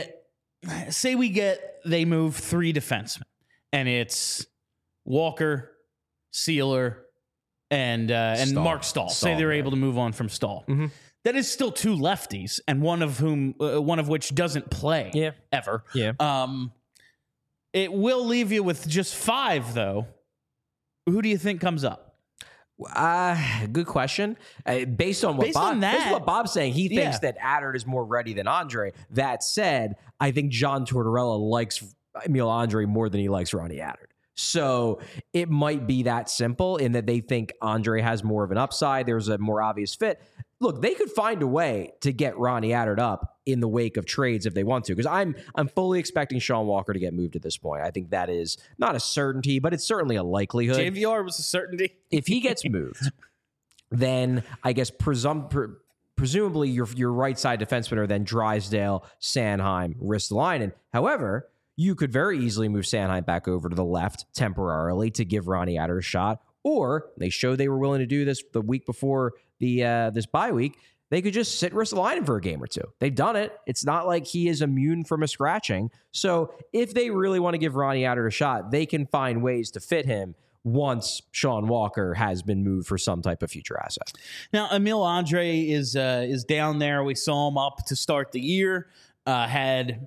they move 3 defensemen and it's Walker, Sealer, and Mark Stahl. Say they're able to move on from Stahl. Mm-hmm. That is still 2 lefties, and one of which doesn't play ever. Yeah. It will leave you with just 5, though. Who do you think comes up? Good question. Based on what Bob's saying, he thinks that Attard is more ready than Andre. That said, I think John Tortorella likes Emil Andre more than he likes Ronnie Attard. So it might be that simple in that they think Andre has more of an upside. There's a more obvious fit. Look, they could find a way to get Ronnie Attard up in the wake of trades if they want to, because I'm fully expecting Sean Walker to get moved at this point. I think that is not a certainty, but it's certainly a likelihood. JVR was a certainty. If he gets moved, then I guess presumably your right side defensemen are then Drysdale, Sanheim, Ristolainen. However, you could very easily move Sanheim back over to the left temporarily to give Ronnie Adder a shot. Or they showed they were willing to do this the week before the this bye week. They could just sit Ristolainen for a game or two. They've done it. It's not like he is immune from a scratching. So if they really want to give Ronnie Adder a shot, they can find ways to fit him once Sean Walker has been moved for some type of future asset. Now, Emil Andre is down there. We saw him up to start the year. Had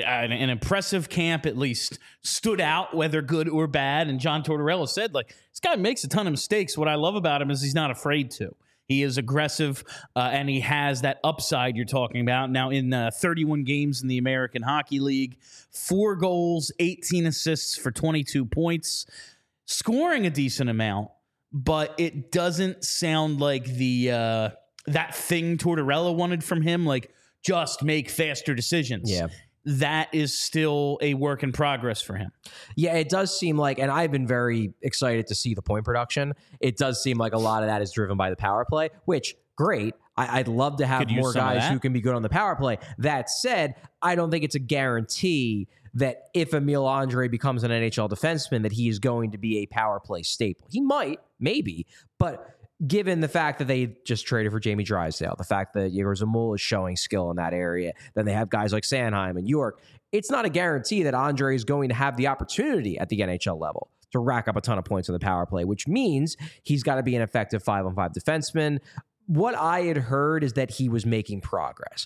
an impressive camp, at least stood out, whether good or bad. And John Tortorella said, like, this guy makes a ton of mistakes. What I love about him is he's not afraid to. He is aggressive, and he has that upside you're talking about. Now, in 31 games in the American Hockey League, 4 goals, 18 assists for 22 points, scoring a decent amount, but it doesn't sound like the that thing Tortorella wanted from him, like just make faster decisions. Yeah. That is still a work in progress for him. Yeah, it does seem like, and I've been very excited to see the point production. It does seem like a lot of that is driven by the power play, which, great. I'd love to have more guys who can be good on the power play. That said, I don't think it's a guarantee that if Emil Andre becomes an NHL defenseman, that he is going to be a power play staple. He might, maybe, but given the fact that they just traded for Jamie Drysdale, the fact that Yegor Zamula is showing skill in that area, then they have guys like Sanheim and York, it's not a guarantee that Andre is going to have the opportunity at the NHL level to rack up a ton of points on the power play, which means he's got to be an effective 5-on-5 defenseman. What I had heard is that he was making progress.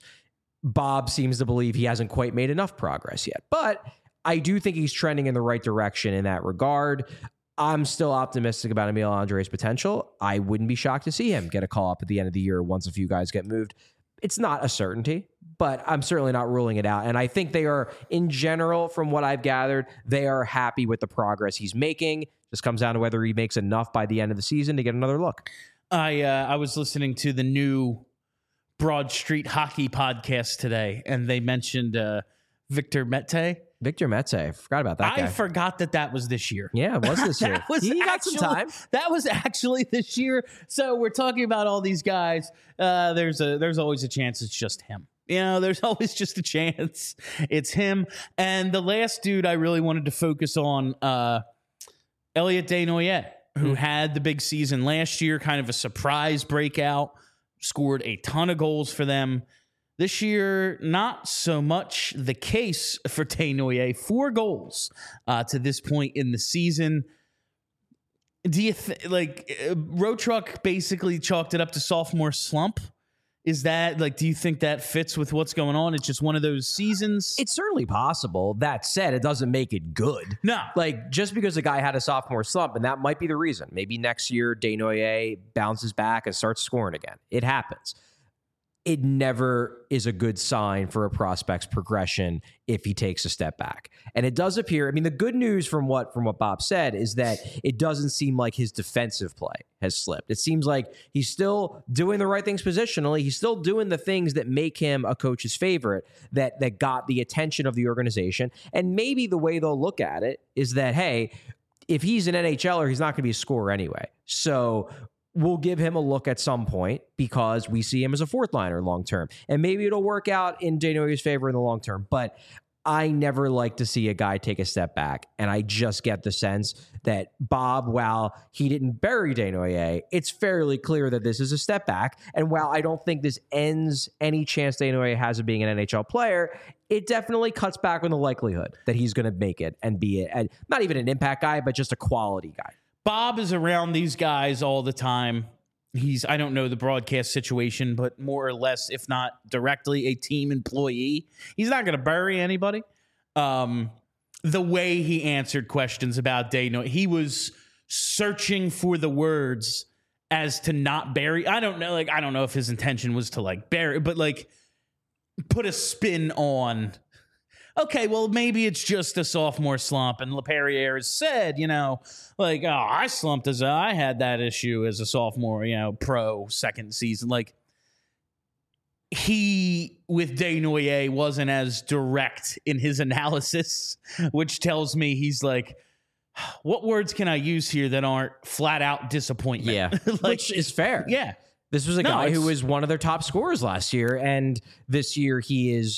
Bob seems to believe he hasn't quite made enough progress yet, but I do think he's trending in the right direction in that regard. I'm still optimistic about Emil Andre's potential. I wouldn't be shocked to see him get a call up at the end of the year once a few guys get moved. It's not a certainty, but I'm certainly not ruling it out. And I think they are, in general, from what I've gathered, they are happy with the progress he's making. Just comes down to whether he makes enough by the end of the season to get another look. I was listening to the new Broad Street Hockey podcast today, and they mentioned Victor Mete. Victor Mete. I forgot about that guy. I forgot that was this year. Yeah, it was this year. He got some time. That was actually this year. So we're talking about all these guys. There's always a chance it's just him. You know, there's always just a chance it's him. And the last dude I really wanted to focus on, Elliot Desnoyers, who had the big season last year, kind of a surprise breakout, scored a ton of goals for them. This year, not so much the case for Desnoyers. 4 goals to this point in the season. Do you Road Truck basically chalked it up to sophomore slump? Is that do you think that fits with what's going on? It's just one of those seasons? It's certainly possible. That said, it doesn't make it good. No. Just because a guy had a sophomore slump, and that might be the reason. Maybe next year, Desnoyers bounces back and starts scoring again. It happens. It never is a good sign for a prospect's progression if he takes a step back. And it does appear, I mean, the good news from what Bob said is that it doesn't seem like his defensive play has slipped. It seems like he's still doing the right things positionally. He's still doing the things that make him a coach's favorite, that got the attention of the organization. And maybe the way they'll look at it is that, hey, if he's an NHLer, he's not going to be a scorer anyway. So we'll give him a look at some point because we see him as a 4th liner long term. And maybe it'll work out in Desnoyers' favor in the long term. But I never like to see a guy take a step back. And I just get the sense that Bob, while he didn't bury Desnoyers, it's fairly clear that this is a step back. And while I don't think this ends any chance Desnoyers has of being an NHL player, it definitely cuts back on the likelihood that he's going to make it and be not even an impact guy, but just a quality guy. Bob is around these guys all the time. I don't know the broadcast situation, but more or less, if not directly, a team employee. He's not going to bury anybody. The way he answered questions about Desnoyers, he was searching for the words as to not bury. I don't know. I don't know if his intention was to bury, but put a spin on. Okay, well, maybe it's just a sophomore slump. And LaPerriere has said, I slumped I had that issue as a sophomore, pro second season. He, with Desnoyers, wasn't as direct in his analysis, which tells me he's what words can I use here that aren't flat out disappointment? Yeah, which is fair. Yeah. This was a guy who was one of their top scorers last year. And this year he is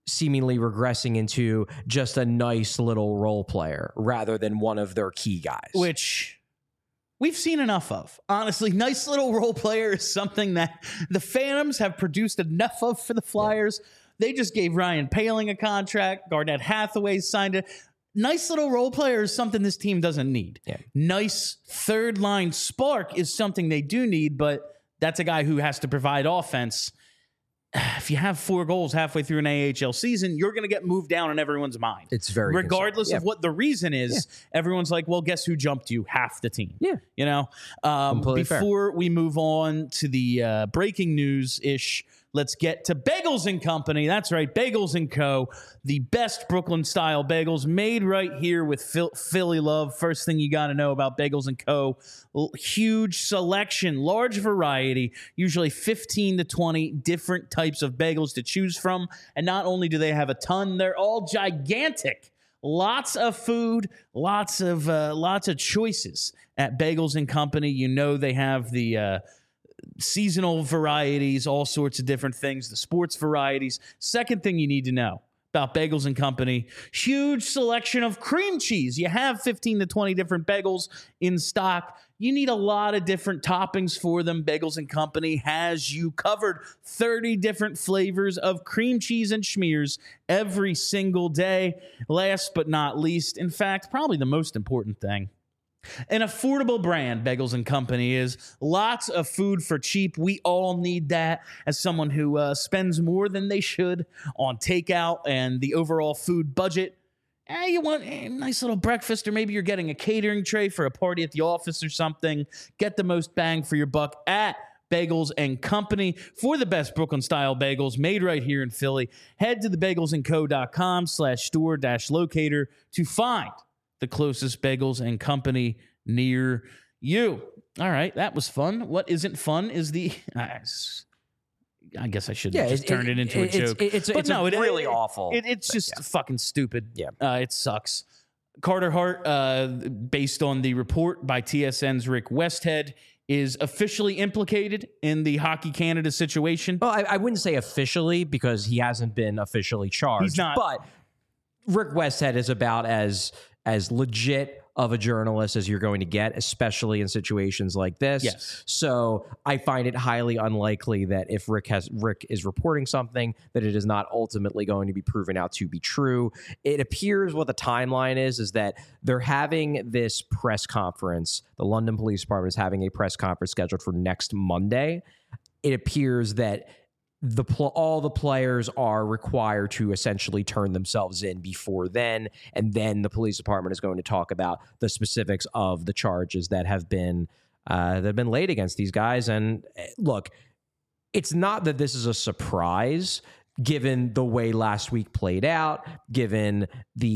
seemingly regressing into just a nice little role player rather than one of their key guys. Which we've seen enough of. Honestly, nice little role player is something that the Phantoms have produced enough of for the Flyers. Yeah. They just gave Ryan Poehling a contract. Garnett Hathaway signed it. Nice little role player is something this team doesn't need. Yeah. Nice third line spark is something they do need, but that's a guy who has to provide offense. If you have 4 goals halfway through an AHL season, you're going to get moved down in everyone's mind. It's very regardless of what the reason is. Yeah. Everyone's like, well, guess who jumped you? Half the team. Yeah, you know. Before we move on to the breaking news ish, let's get to Bagels and Company. That's right, Bagels and Co. The best Brooklyn-style bagels made right here with Philly love. First thing you got to know about Bagels and Co. Huge selection, large variety, usually 15 to 20 different types of bagels to choose from. And not only do they have a ton, they're all gigantic. Lots of food, lots of choices at Bagels and Company. You know they have the seasonal varieties, all sorts of different things, the sports varieties. Second thing you need to know about Bagels and Company, huge selection of cream cheese. You have 15 to 20 different bagels in stock. You need a lot of different toppings for them. Bagels and Company has you covered. 30 different flavors of cream cheese and schmears every single day. Last but not least, in fact, probably the most important thing, an affordable brand. Bagels and Company is lots of food for cheap. We all need that as someone who spends more than they should on takeout and the overall food budget. You want a nice little breakfast, or maybe you're getting a catering tray for a party at the office or something. Get the most bang for your buck at Bagels and Company for the best Brooklyn-style bagels made right here in Philly. Head to thebagelsandco.com/store-locator to find the closest Bagels and Company near you. All right, that was fun. What isn't fun is the... I guess I should have just turned it into a joke. It's really awful. It's just fucking stupid. Yeah. It sucks. Carter Hart, based on the report by TSN's Rick Westhead, is officially implicated in the Hockey Canada situation. Well, I wouldn't say officially because he hasn't been officially charged. He's not. But Rick Westhead is about as legit of a journalist as you're going to get, especially in situations like this. Yes. So I find it highly unlikely that if Rick is reporting something, that it is not ultimately going to be proven out to be true. It appears what the timeline is that they're having this press conference. The London Police Department is having a press conference scheduled for next Monday. It appears that all the players are required to essentially turn themselves in before then, and then the police department is going to talk about the specifics of the charges that have been laid against these guys. And look, it's not that this is a surprise, given the way last week played out, given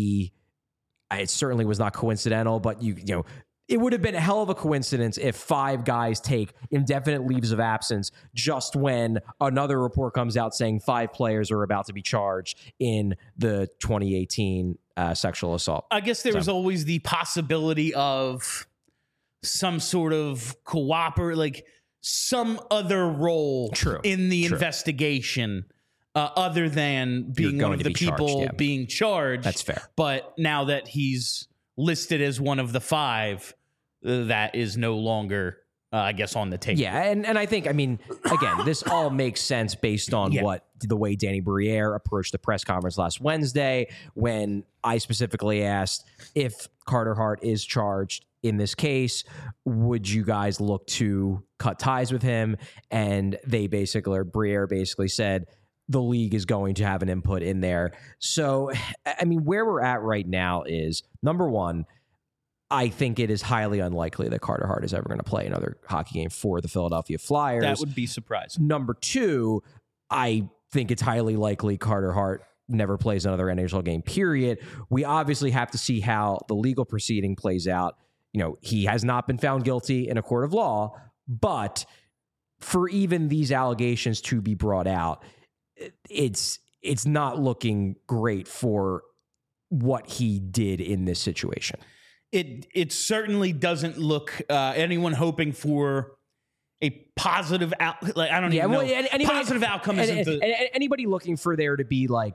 it certainly was not coincidental, but you know. It would have been a hell of a coincidence if 5 guys take indefinite leaves of absence just when another report comes out saying 5 players are about to be charged in the 2018 sexual assault. I guess there was always the possibility of some sort of like some other role in the investigation other than being one of the people being charged. That's fair. But now that he's listed as one of the 5, that is no longer, I guess, on the table. Yeah, and I think, I mean, again, this all makes sense based on the way Danny Briere approached the press conference last Wednesday, when I specifically asked if Carter Hart is charged in this case, would you guys look to cut ties with him? And Briere basically said, the league is going to have an input in there. So, I mean, where we're at right now is, number one, I think it is highly unlikely that Carter Hart is ever going to play another hockey game for the Philadelphia Flyers. That would be surprising. Number two, I think it's highly likely Carter Hart never plays another NHL game, period. We obviously have to see how the legal proceeding plays out. You know, he has not been found guilty in a court of law, but for even these allegations to be brought out, it's not looking great for what he did in this situation. It certainly doesn't look anyone hoping for a positive positive outcome isn't anybody looking for there to be like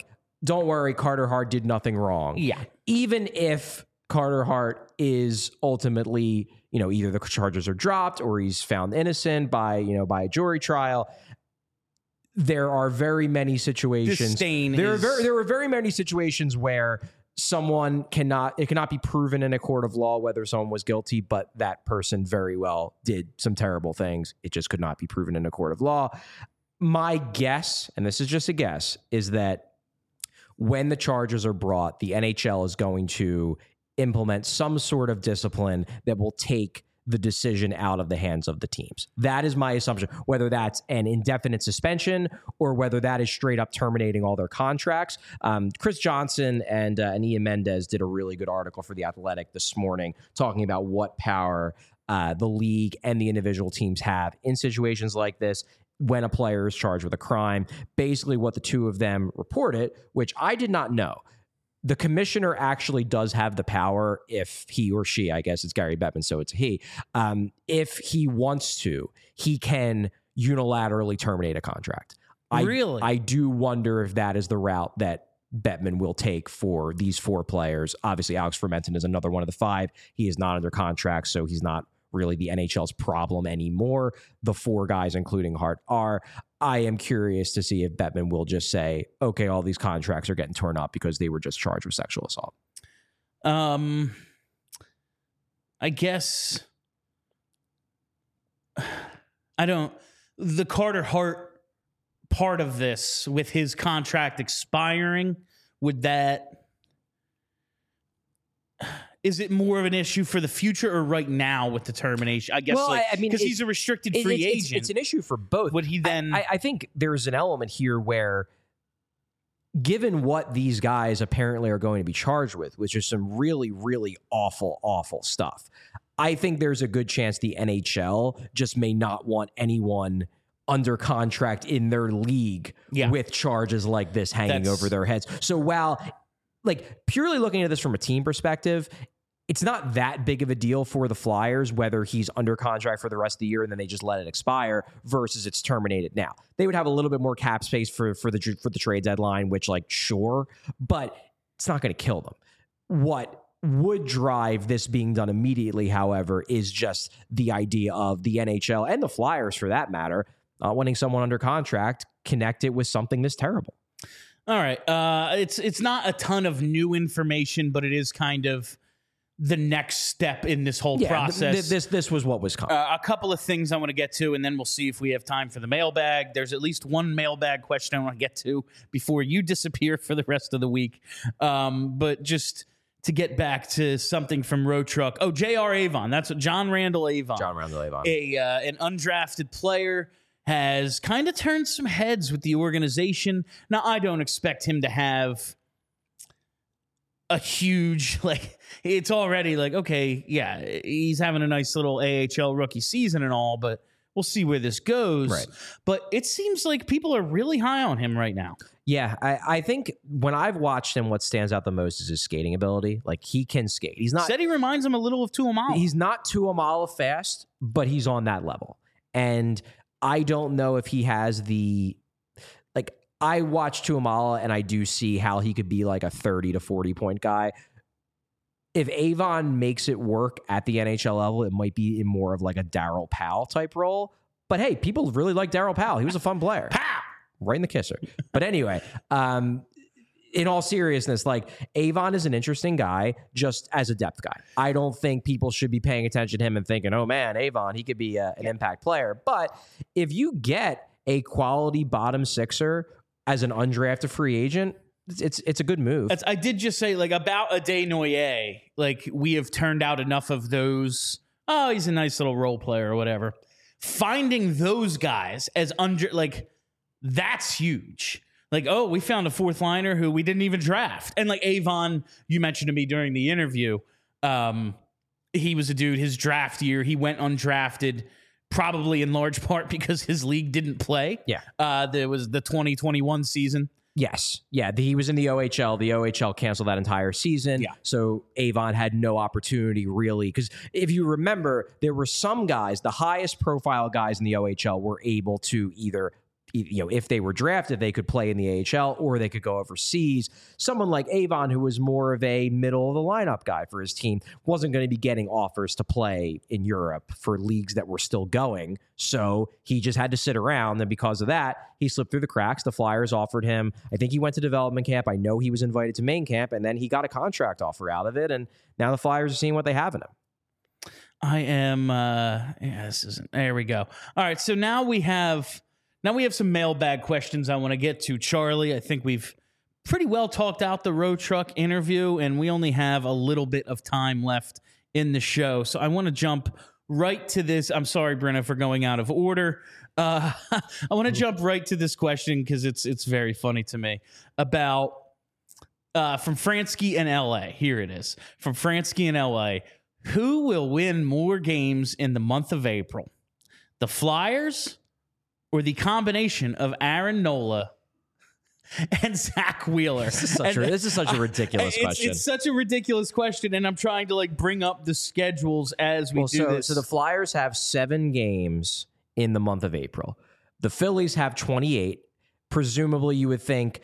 don't worry, Carter Hart did nothing wrong. Yeah. Even if Carter Hart is ultimately, either the charges are dropped or he's found innocent by a jury trial. There are very many situations. There are very many situations where it cannot be proven in a court of law whether someone was guilty, but that person very well did some terrible things. It just could not be proven in a court of law. My guess, and this is just a guess, is that when the charges are brought, the NHL is going to implement some sort of discipline that will take the decision out of the hands of the teams. That is my assumption, whether that's an indefinite suspension or whether that is straight up terminating all their contracts. Chris Johnson and Ian Mendez did a really good article for The Athletic this morning talking about what power the league and the individual teams have in situations like this when a player is charged with a crime. Basically what the two of them reported, which I did not know. The commissioner actually does have the power if he or she, I guess it's Gary Bettman, so it's he, if he wants to, he can unilaterally terminate a contract. Really? I do wonder if that is the route that Bettman will take for these four players. Obviously, Alex Fermenton is another one of the five. He is not under contract, so he's not really the NHL's problem anymore. The four guys, including Hart, are. I am curious to see if Bettman will just say, okay, all these contracts are getting torn up because they were just charged with sexual assault. I guess the Carter Hart part of this with his contract expiring, is it more of an issue for the future or right now with the termination? I guess, because he's a restricted free agent. It's an issue for both. Would he then? I think there's an element here where, given what these guys apparently are going to be charged with, which is some really, really awful, awful stuff, I think there's a good chance the NHL just may not want anyone under contract in their league with charges like this hanging over their heads. So while, purely looking at this from a team perspective, it's not that big of a deal for the Flyers whether he's under contract for the rest of the year and then they just let it expire versus it's terminated now. They would have a little bit more cap space for the trade deadline, which sure, but it's not going to kill them. What would drive this being done immediately, however, is just the idea of the NHL and the Flyers, for that matter, not wanting someone under contract connected with something this terrible. All right. It's not a ton of new information, but it is kind of the next step in this whole process. This was what was coming. A couple of things I want to get to, and then we'll see if we have time for the mailbag. There's at least one mailbag question I want to get to before you disappear for the rest of the week. But just to get back to something from Road Truck. Oh, J.R. Avon. That's John Randall Avon. John Randall Avon. An undrafted player has kind of turned some heads with the organization. Now, I don't expect him to have a huge, it's already okay, yeah, he's having a nice little AHL rookie season and all, but we'll see where this goes. Right. But it seems like people are really high on him right now. Yeah, I think when I've watched him, what stands out the most is his skating ability. He can skate. He's not. Said he reminds him a little of Tuomaala. He's not Tuomaala fast, but he's on that level. And I don't know if he has the, I watch Tuomaala and I do see how he could be a 30 to 40 point guy. If Avon makes it work at the NHL level, it might be in more of a Darryl Powell type role. But hey, people really like Darryl Powell. He was a fun player. Pow! Right in the kisser. But anyway, in all seriousness, Avon is an interesting guy just as a depth guy. I don't think people should be paying attention to him and thinking, oh man, Avon, he could be an impact player. But if you get a quality bottom sixer as an undrafted free agent, it's a good move. I did just say about Adé Noyer, we have turned out enough of those. Oh, he's a nice little role player or whatever. Finding those guys as that's huge. We found a fourth liner who we didn't even draft. And Avon, you mentioned to me during the interview, he was a dude, his draft year, he went undrafted, probably in large part because his league didn't play. Yeah. There was the 2021 season. Yes. Yeah. He was in the OHL. The OHL canceled that entire season. Yeah. So Avon had no opportunity really. Because if you remember, there were some guys, the highest profile guys in the OHL were able to either if they were drafted, they could play in the AHL or they could go overseas. Someone like Avon, who was more of a middle of the lineup guy for his team, wasn't going to be getting offers to play in Europe for leagues that were still going. So he just had to sit around. And because of that, he slipped through the cracks. The Flyers offered him, I think he went to development camp. I know he was invited to main camp, and then he got a contract offer out of it. And now the Flyers are seeing what they have in him. I am, this isn't, there we go. All right. So now we have some mailbag questions I want to get to, Charlie. I think we've pretty well talked out the road truck interview, and we only have a little bit of time left in the show. So I want to jump right to this. I'm sorry, Brenna, for going out of order. I want to jump right to this question because it's very funny to me about from Fransky in LA. Here it is from Fransky in LA. Who will win more games in the month of April? The Flyers or the combination of Aaron Nola and Zach Wheeler? This is such a ridiculous question. It's such a ridiculous question, and I'm trying to bring up the schedules as we do this. So the Flyers have 7 games in the month of April. The Phillies have 28. Presumably, you would think,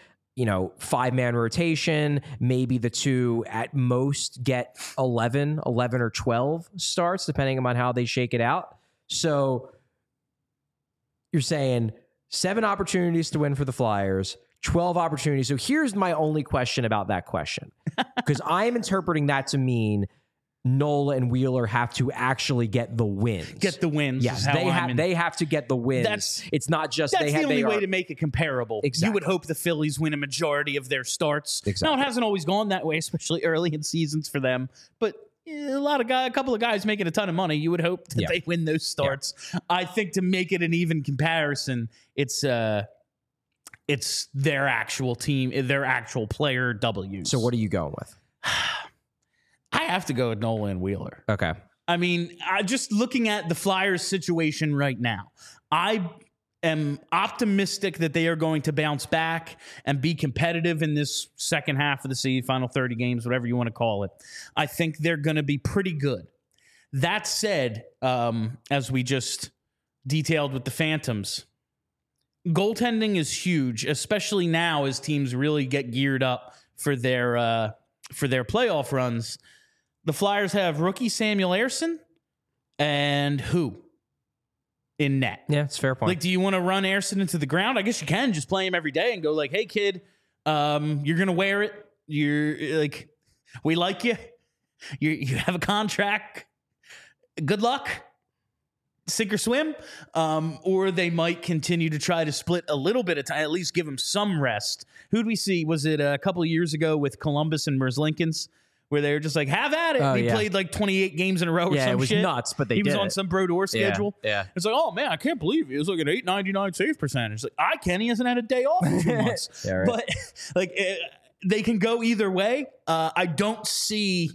5-man rotation, maybe the two at most get 11 or 12 starts, depending on how they shake it out. So you're saying 7 opportunities to win for the Flyers, 12 opportunities. So here's my only question about that question, because I am interpreting that to mean Nola and Wheeler have to actually get the wins. Get the wins. Yes, they have to get the wins. It's not just that's the only way to make it comparable. Exactly. You would hope the Phillies win a majority of their starts. Exactly. Now, it hasn't always gone that way, especially early in seasons for them. But a couple of guys making a ton of money, you would hope that they win those starts. Yeah. I think to make it an even comparison, it's their actual team, their actual player W's. So what are you going with? I have to go with Nola and Wheeler. Okay. I mean, just looking at the Flyers situation right now, I am optimistic that they are going to bounce back and be competitive in this second half of the season, final 30 games, whatever you want to call it. I think they're going to be pretty good. That said, as we just detailed with the Phantoms, goaltending is huge, especially now as teams really get geared up for their playoff runs. The Flyers have rookie Samuel Ersson and who in net? Yeah, it's a fair point. Do you want to run Ersson into the ground? I guess you can just play him every day and go hey kid, you're gonna wear it. You're we like you. You have a contract. Good luck. Sink or swim. Or they might continue to try to split a little bit of time, at least give him some rest. Who'd we see? Was it a couple of years ago with Columbus and Merzlikins, where they were just have at it? He played 28 games in a row or some shit. Yeah, it was nuts, but he was on some Brodeur schedule. Yeah. It's oh man, I can't believe he was an 899 save percentage. I can. He hasn't had a day off in 2 months. Yeah, right. But they can go either way. I don't see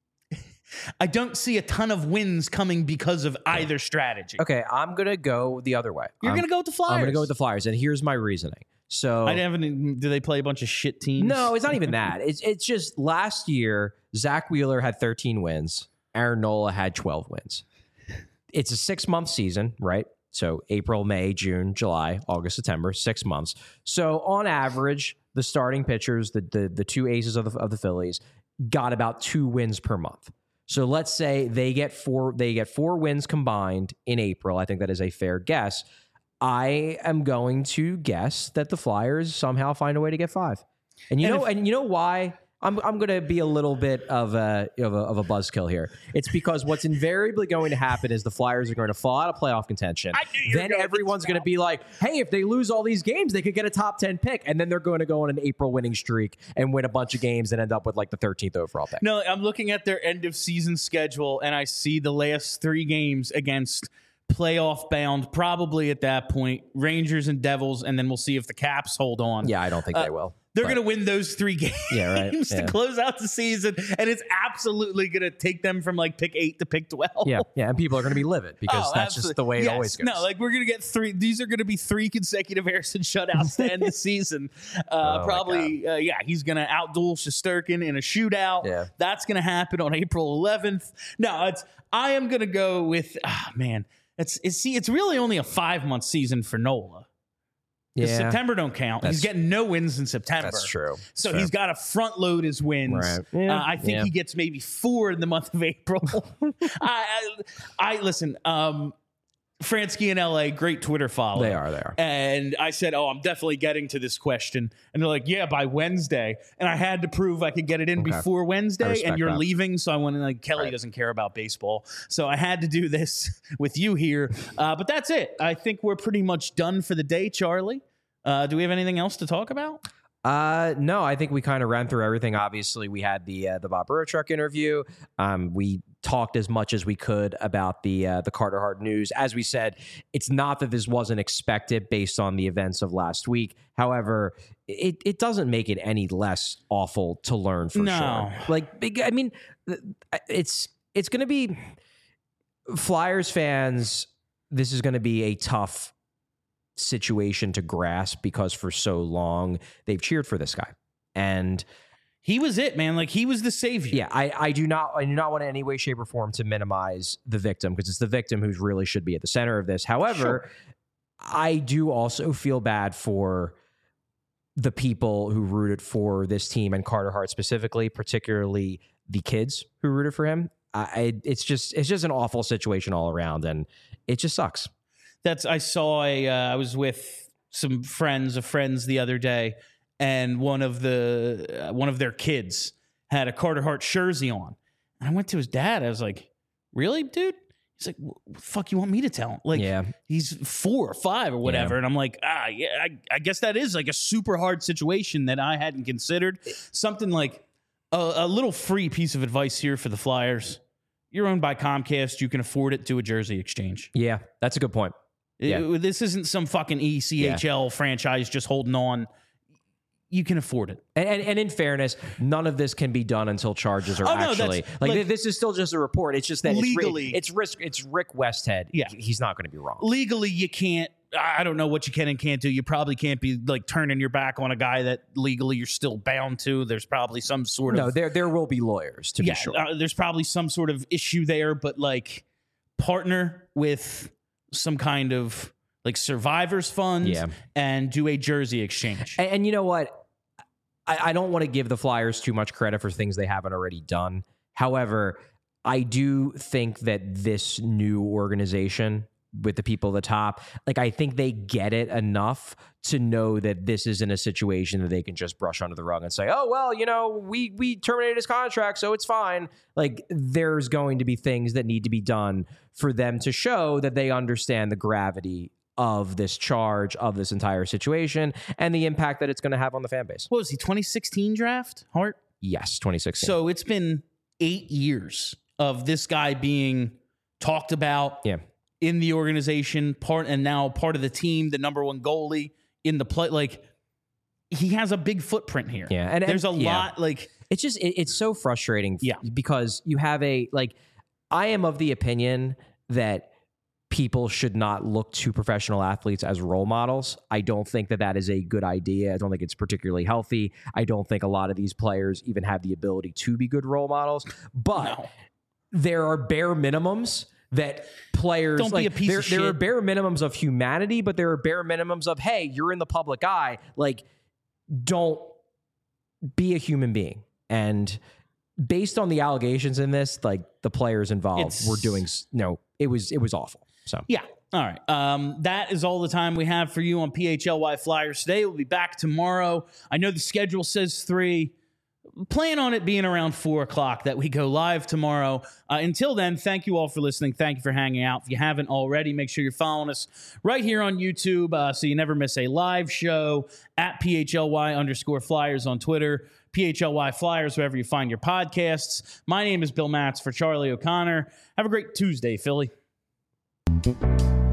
a ton of wins coming because of either strategy. Okay, I'm going to go the other way. You're going to go with the Flyers. I'm going to go with the Flyers, and here's my reasoning. So do they play a bunch of shit teams? No, it's not even that. It's just last year, Zach Wheeler had 13 wins. Aaron Nola had 12 wins. It's a 6-month season, right? So April, May, June, July, August, September, 6 months. So on average, the starting pitchers, the two aces of the Phillies, got about 2 wins per month. So let's say they get 4 wins combined in April. I think that is a fair guess. I am going to guess that the Flyers somehow find a way to get 5. And you know why? I'm going to be a little bit of a buzzkill here. It's because what's invariably going to happen is the Flyers are going to fall out of playoff contention. Then everyone's going to be like, hey, if they lose all these games, they could get a top 10 pick. And then they're going to go on an April winning streak and win a bunch of games and end up with the 13th overall pick. No, I'm looking at their end of season schedule and I see the last 3 games against playoff bound, probably at that point, Rangers and Devils, and then we'll see if the Caps hold on. Yeah, I don't think they will. They're going to win those 3 games to close out the season, and it's absolutely going to take them from pick 8 to pick 12. Yeah, and people are going to be livid because that's just the way it always goes. No, we're going to get 3. These are going to be 3 consecutive Ersson shutouts to end the season. Probably, he's going to outduel Shesterkin in a shootout. Yeah. That's going to happen on April 11th. No, I am going to go with, it's really only a 5-month season for Nola. Because Yeah. September don't count. He's getting no wins in September. That's true. So Fair. he's got to front load his wins. Right. Yeah. I think he gets maybe 4 in the month of April. I listen. Fransky in LA, great Twitter follow. They are. And I said, I'm definitely getting to this question. And they're like, yeah, by Wednesday. And I had to prove I could get it in before Wednesday. And you're leaving. So I went, like, Kelly doesn't care about baseball. So I had to do this with you here. But that's it. I think we're pretty much done for the day, Charlie. Do we have anything else to talk about? No, I think we kind of ran through everything. Obviously, we had the Bob Burrow interview. We talked as much as we could about the Carter Hart news. As we said, it's not that this wasn't expected based on the events of last week. However, it doesn't make it any less awful to learn for sure. Like, I mean, it's going to be Flyers fans. This is going to be a tough situation to grasp because for so long they've cheered for this guy, and he was it, man. Like, he was the savior. Yeah, I do not want in any way, shape, or form to minimize the victim, because it's the victim who really should be at the center of this. However, I do also feel bad for the people who rooted for this team and Carter Hart specifically, particularly the kids who rooted for him. It's just an awful situation all around, and it just sucks. I saw I was with some friends of friends the other day, and one of their kids had a Carter Hart jersey on. And I went to his dad. I was like, "Really, dude?" He's like, "What the fuck you want me to tell him?" Like, he's 4 or 5 or whatever. Yeah. And I'm like, I guess that is like a super hard situation that I hadn't considered. Something like a little free piece of advice here for the Flyers. You're owned by Comcast. You can afford it. Do a jersey exchange. Yeah, that's a good point. Yeah. This isn't some fucking ECHL franchise just holding on. You can afford it. And in fairness, none of this can be done until charges are actually like this is still just a report. It's just that legally it's Rick Westhead. Yeah, he's not going to be wrong. Legally, you can't. I don't know what you can and can't do. You probably can't be like turning your back on a guy that legally you're still bound to. There's probably some sort of there will be lawyers to be sure. There's probably some sort of issue there, but like partner with some kind of like survivors fund and do a jersey exchange. And you know what? I don't want to give the Flyers too much credit for things they haven't already done. However, I do think that this new organization with the people at the top, like, I think they get it enough to know that this isn't a situation that they can just brush under the rug and say, oh, well, we terminated his contract, so it's fine. Like, there's going to be things that need to be done for them to show that they understand the gravity of this charge, of this entire situation, and the impact that it's going to have on the fan base. What was he, 2016 draft, Hart? Yes, 2016. So it's been 8 years of this guy being talked about in the organization, and now part of the team, the number 1 goalie in the play. Like, he has a big footprint here. Yeah, and there's a lot. Like, it's just it's so frustrating. Yeah, because you have I am of the opinion that people should not look to professional athletes as role models. I don't think that is a good idea. I don't think it's particularly healthy. I don't think a lot of these players even have the ability to be good role models. But there are bare minimums that players don't be a piece of shit. There are bare minimums of humanity, but there are bare minimums of, hey, you're in the public eye. Like, don't be a human being. And based on the allegations in this, like, the players involved were doing it was awful. So yeah. All right. That is all the time we have for you on PHLY Flyers today. We'll be back tomorrow. I know the schedule says 3. Plan on it being around 4 o'clock that we go live tomorrow. Until then, thank you all for listening. Thank you for hanging out. If you haven't already, make sure you're following us right here on YouTube so you never miss a live show at PHLY_Flyers on Twitter, PHLY Flyers, wherever you find your podcasts. My name is Bill Matz for Charlie O'Connor. Have a great Tuesday, Philly.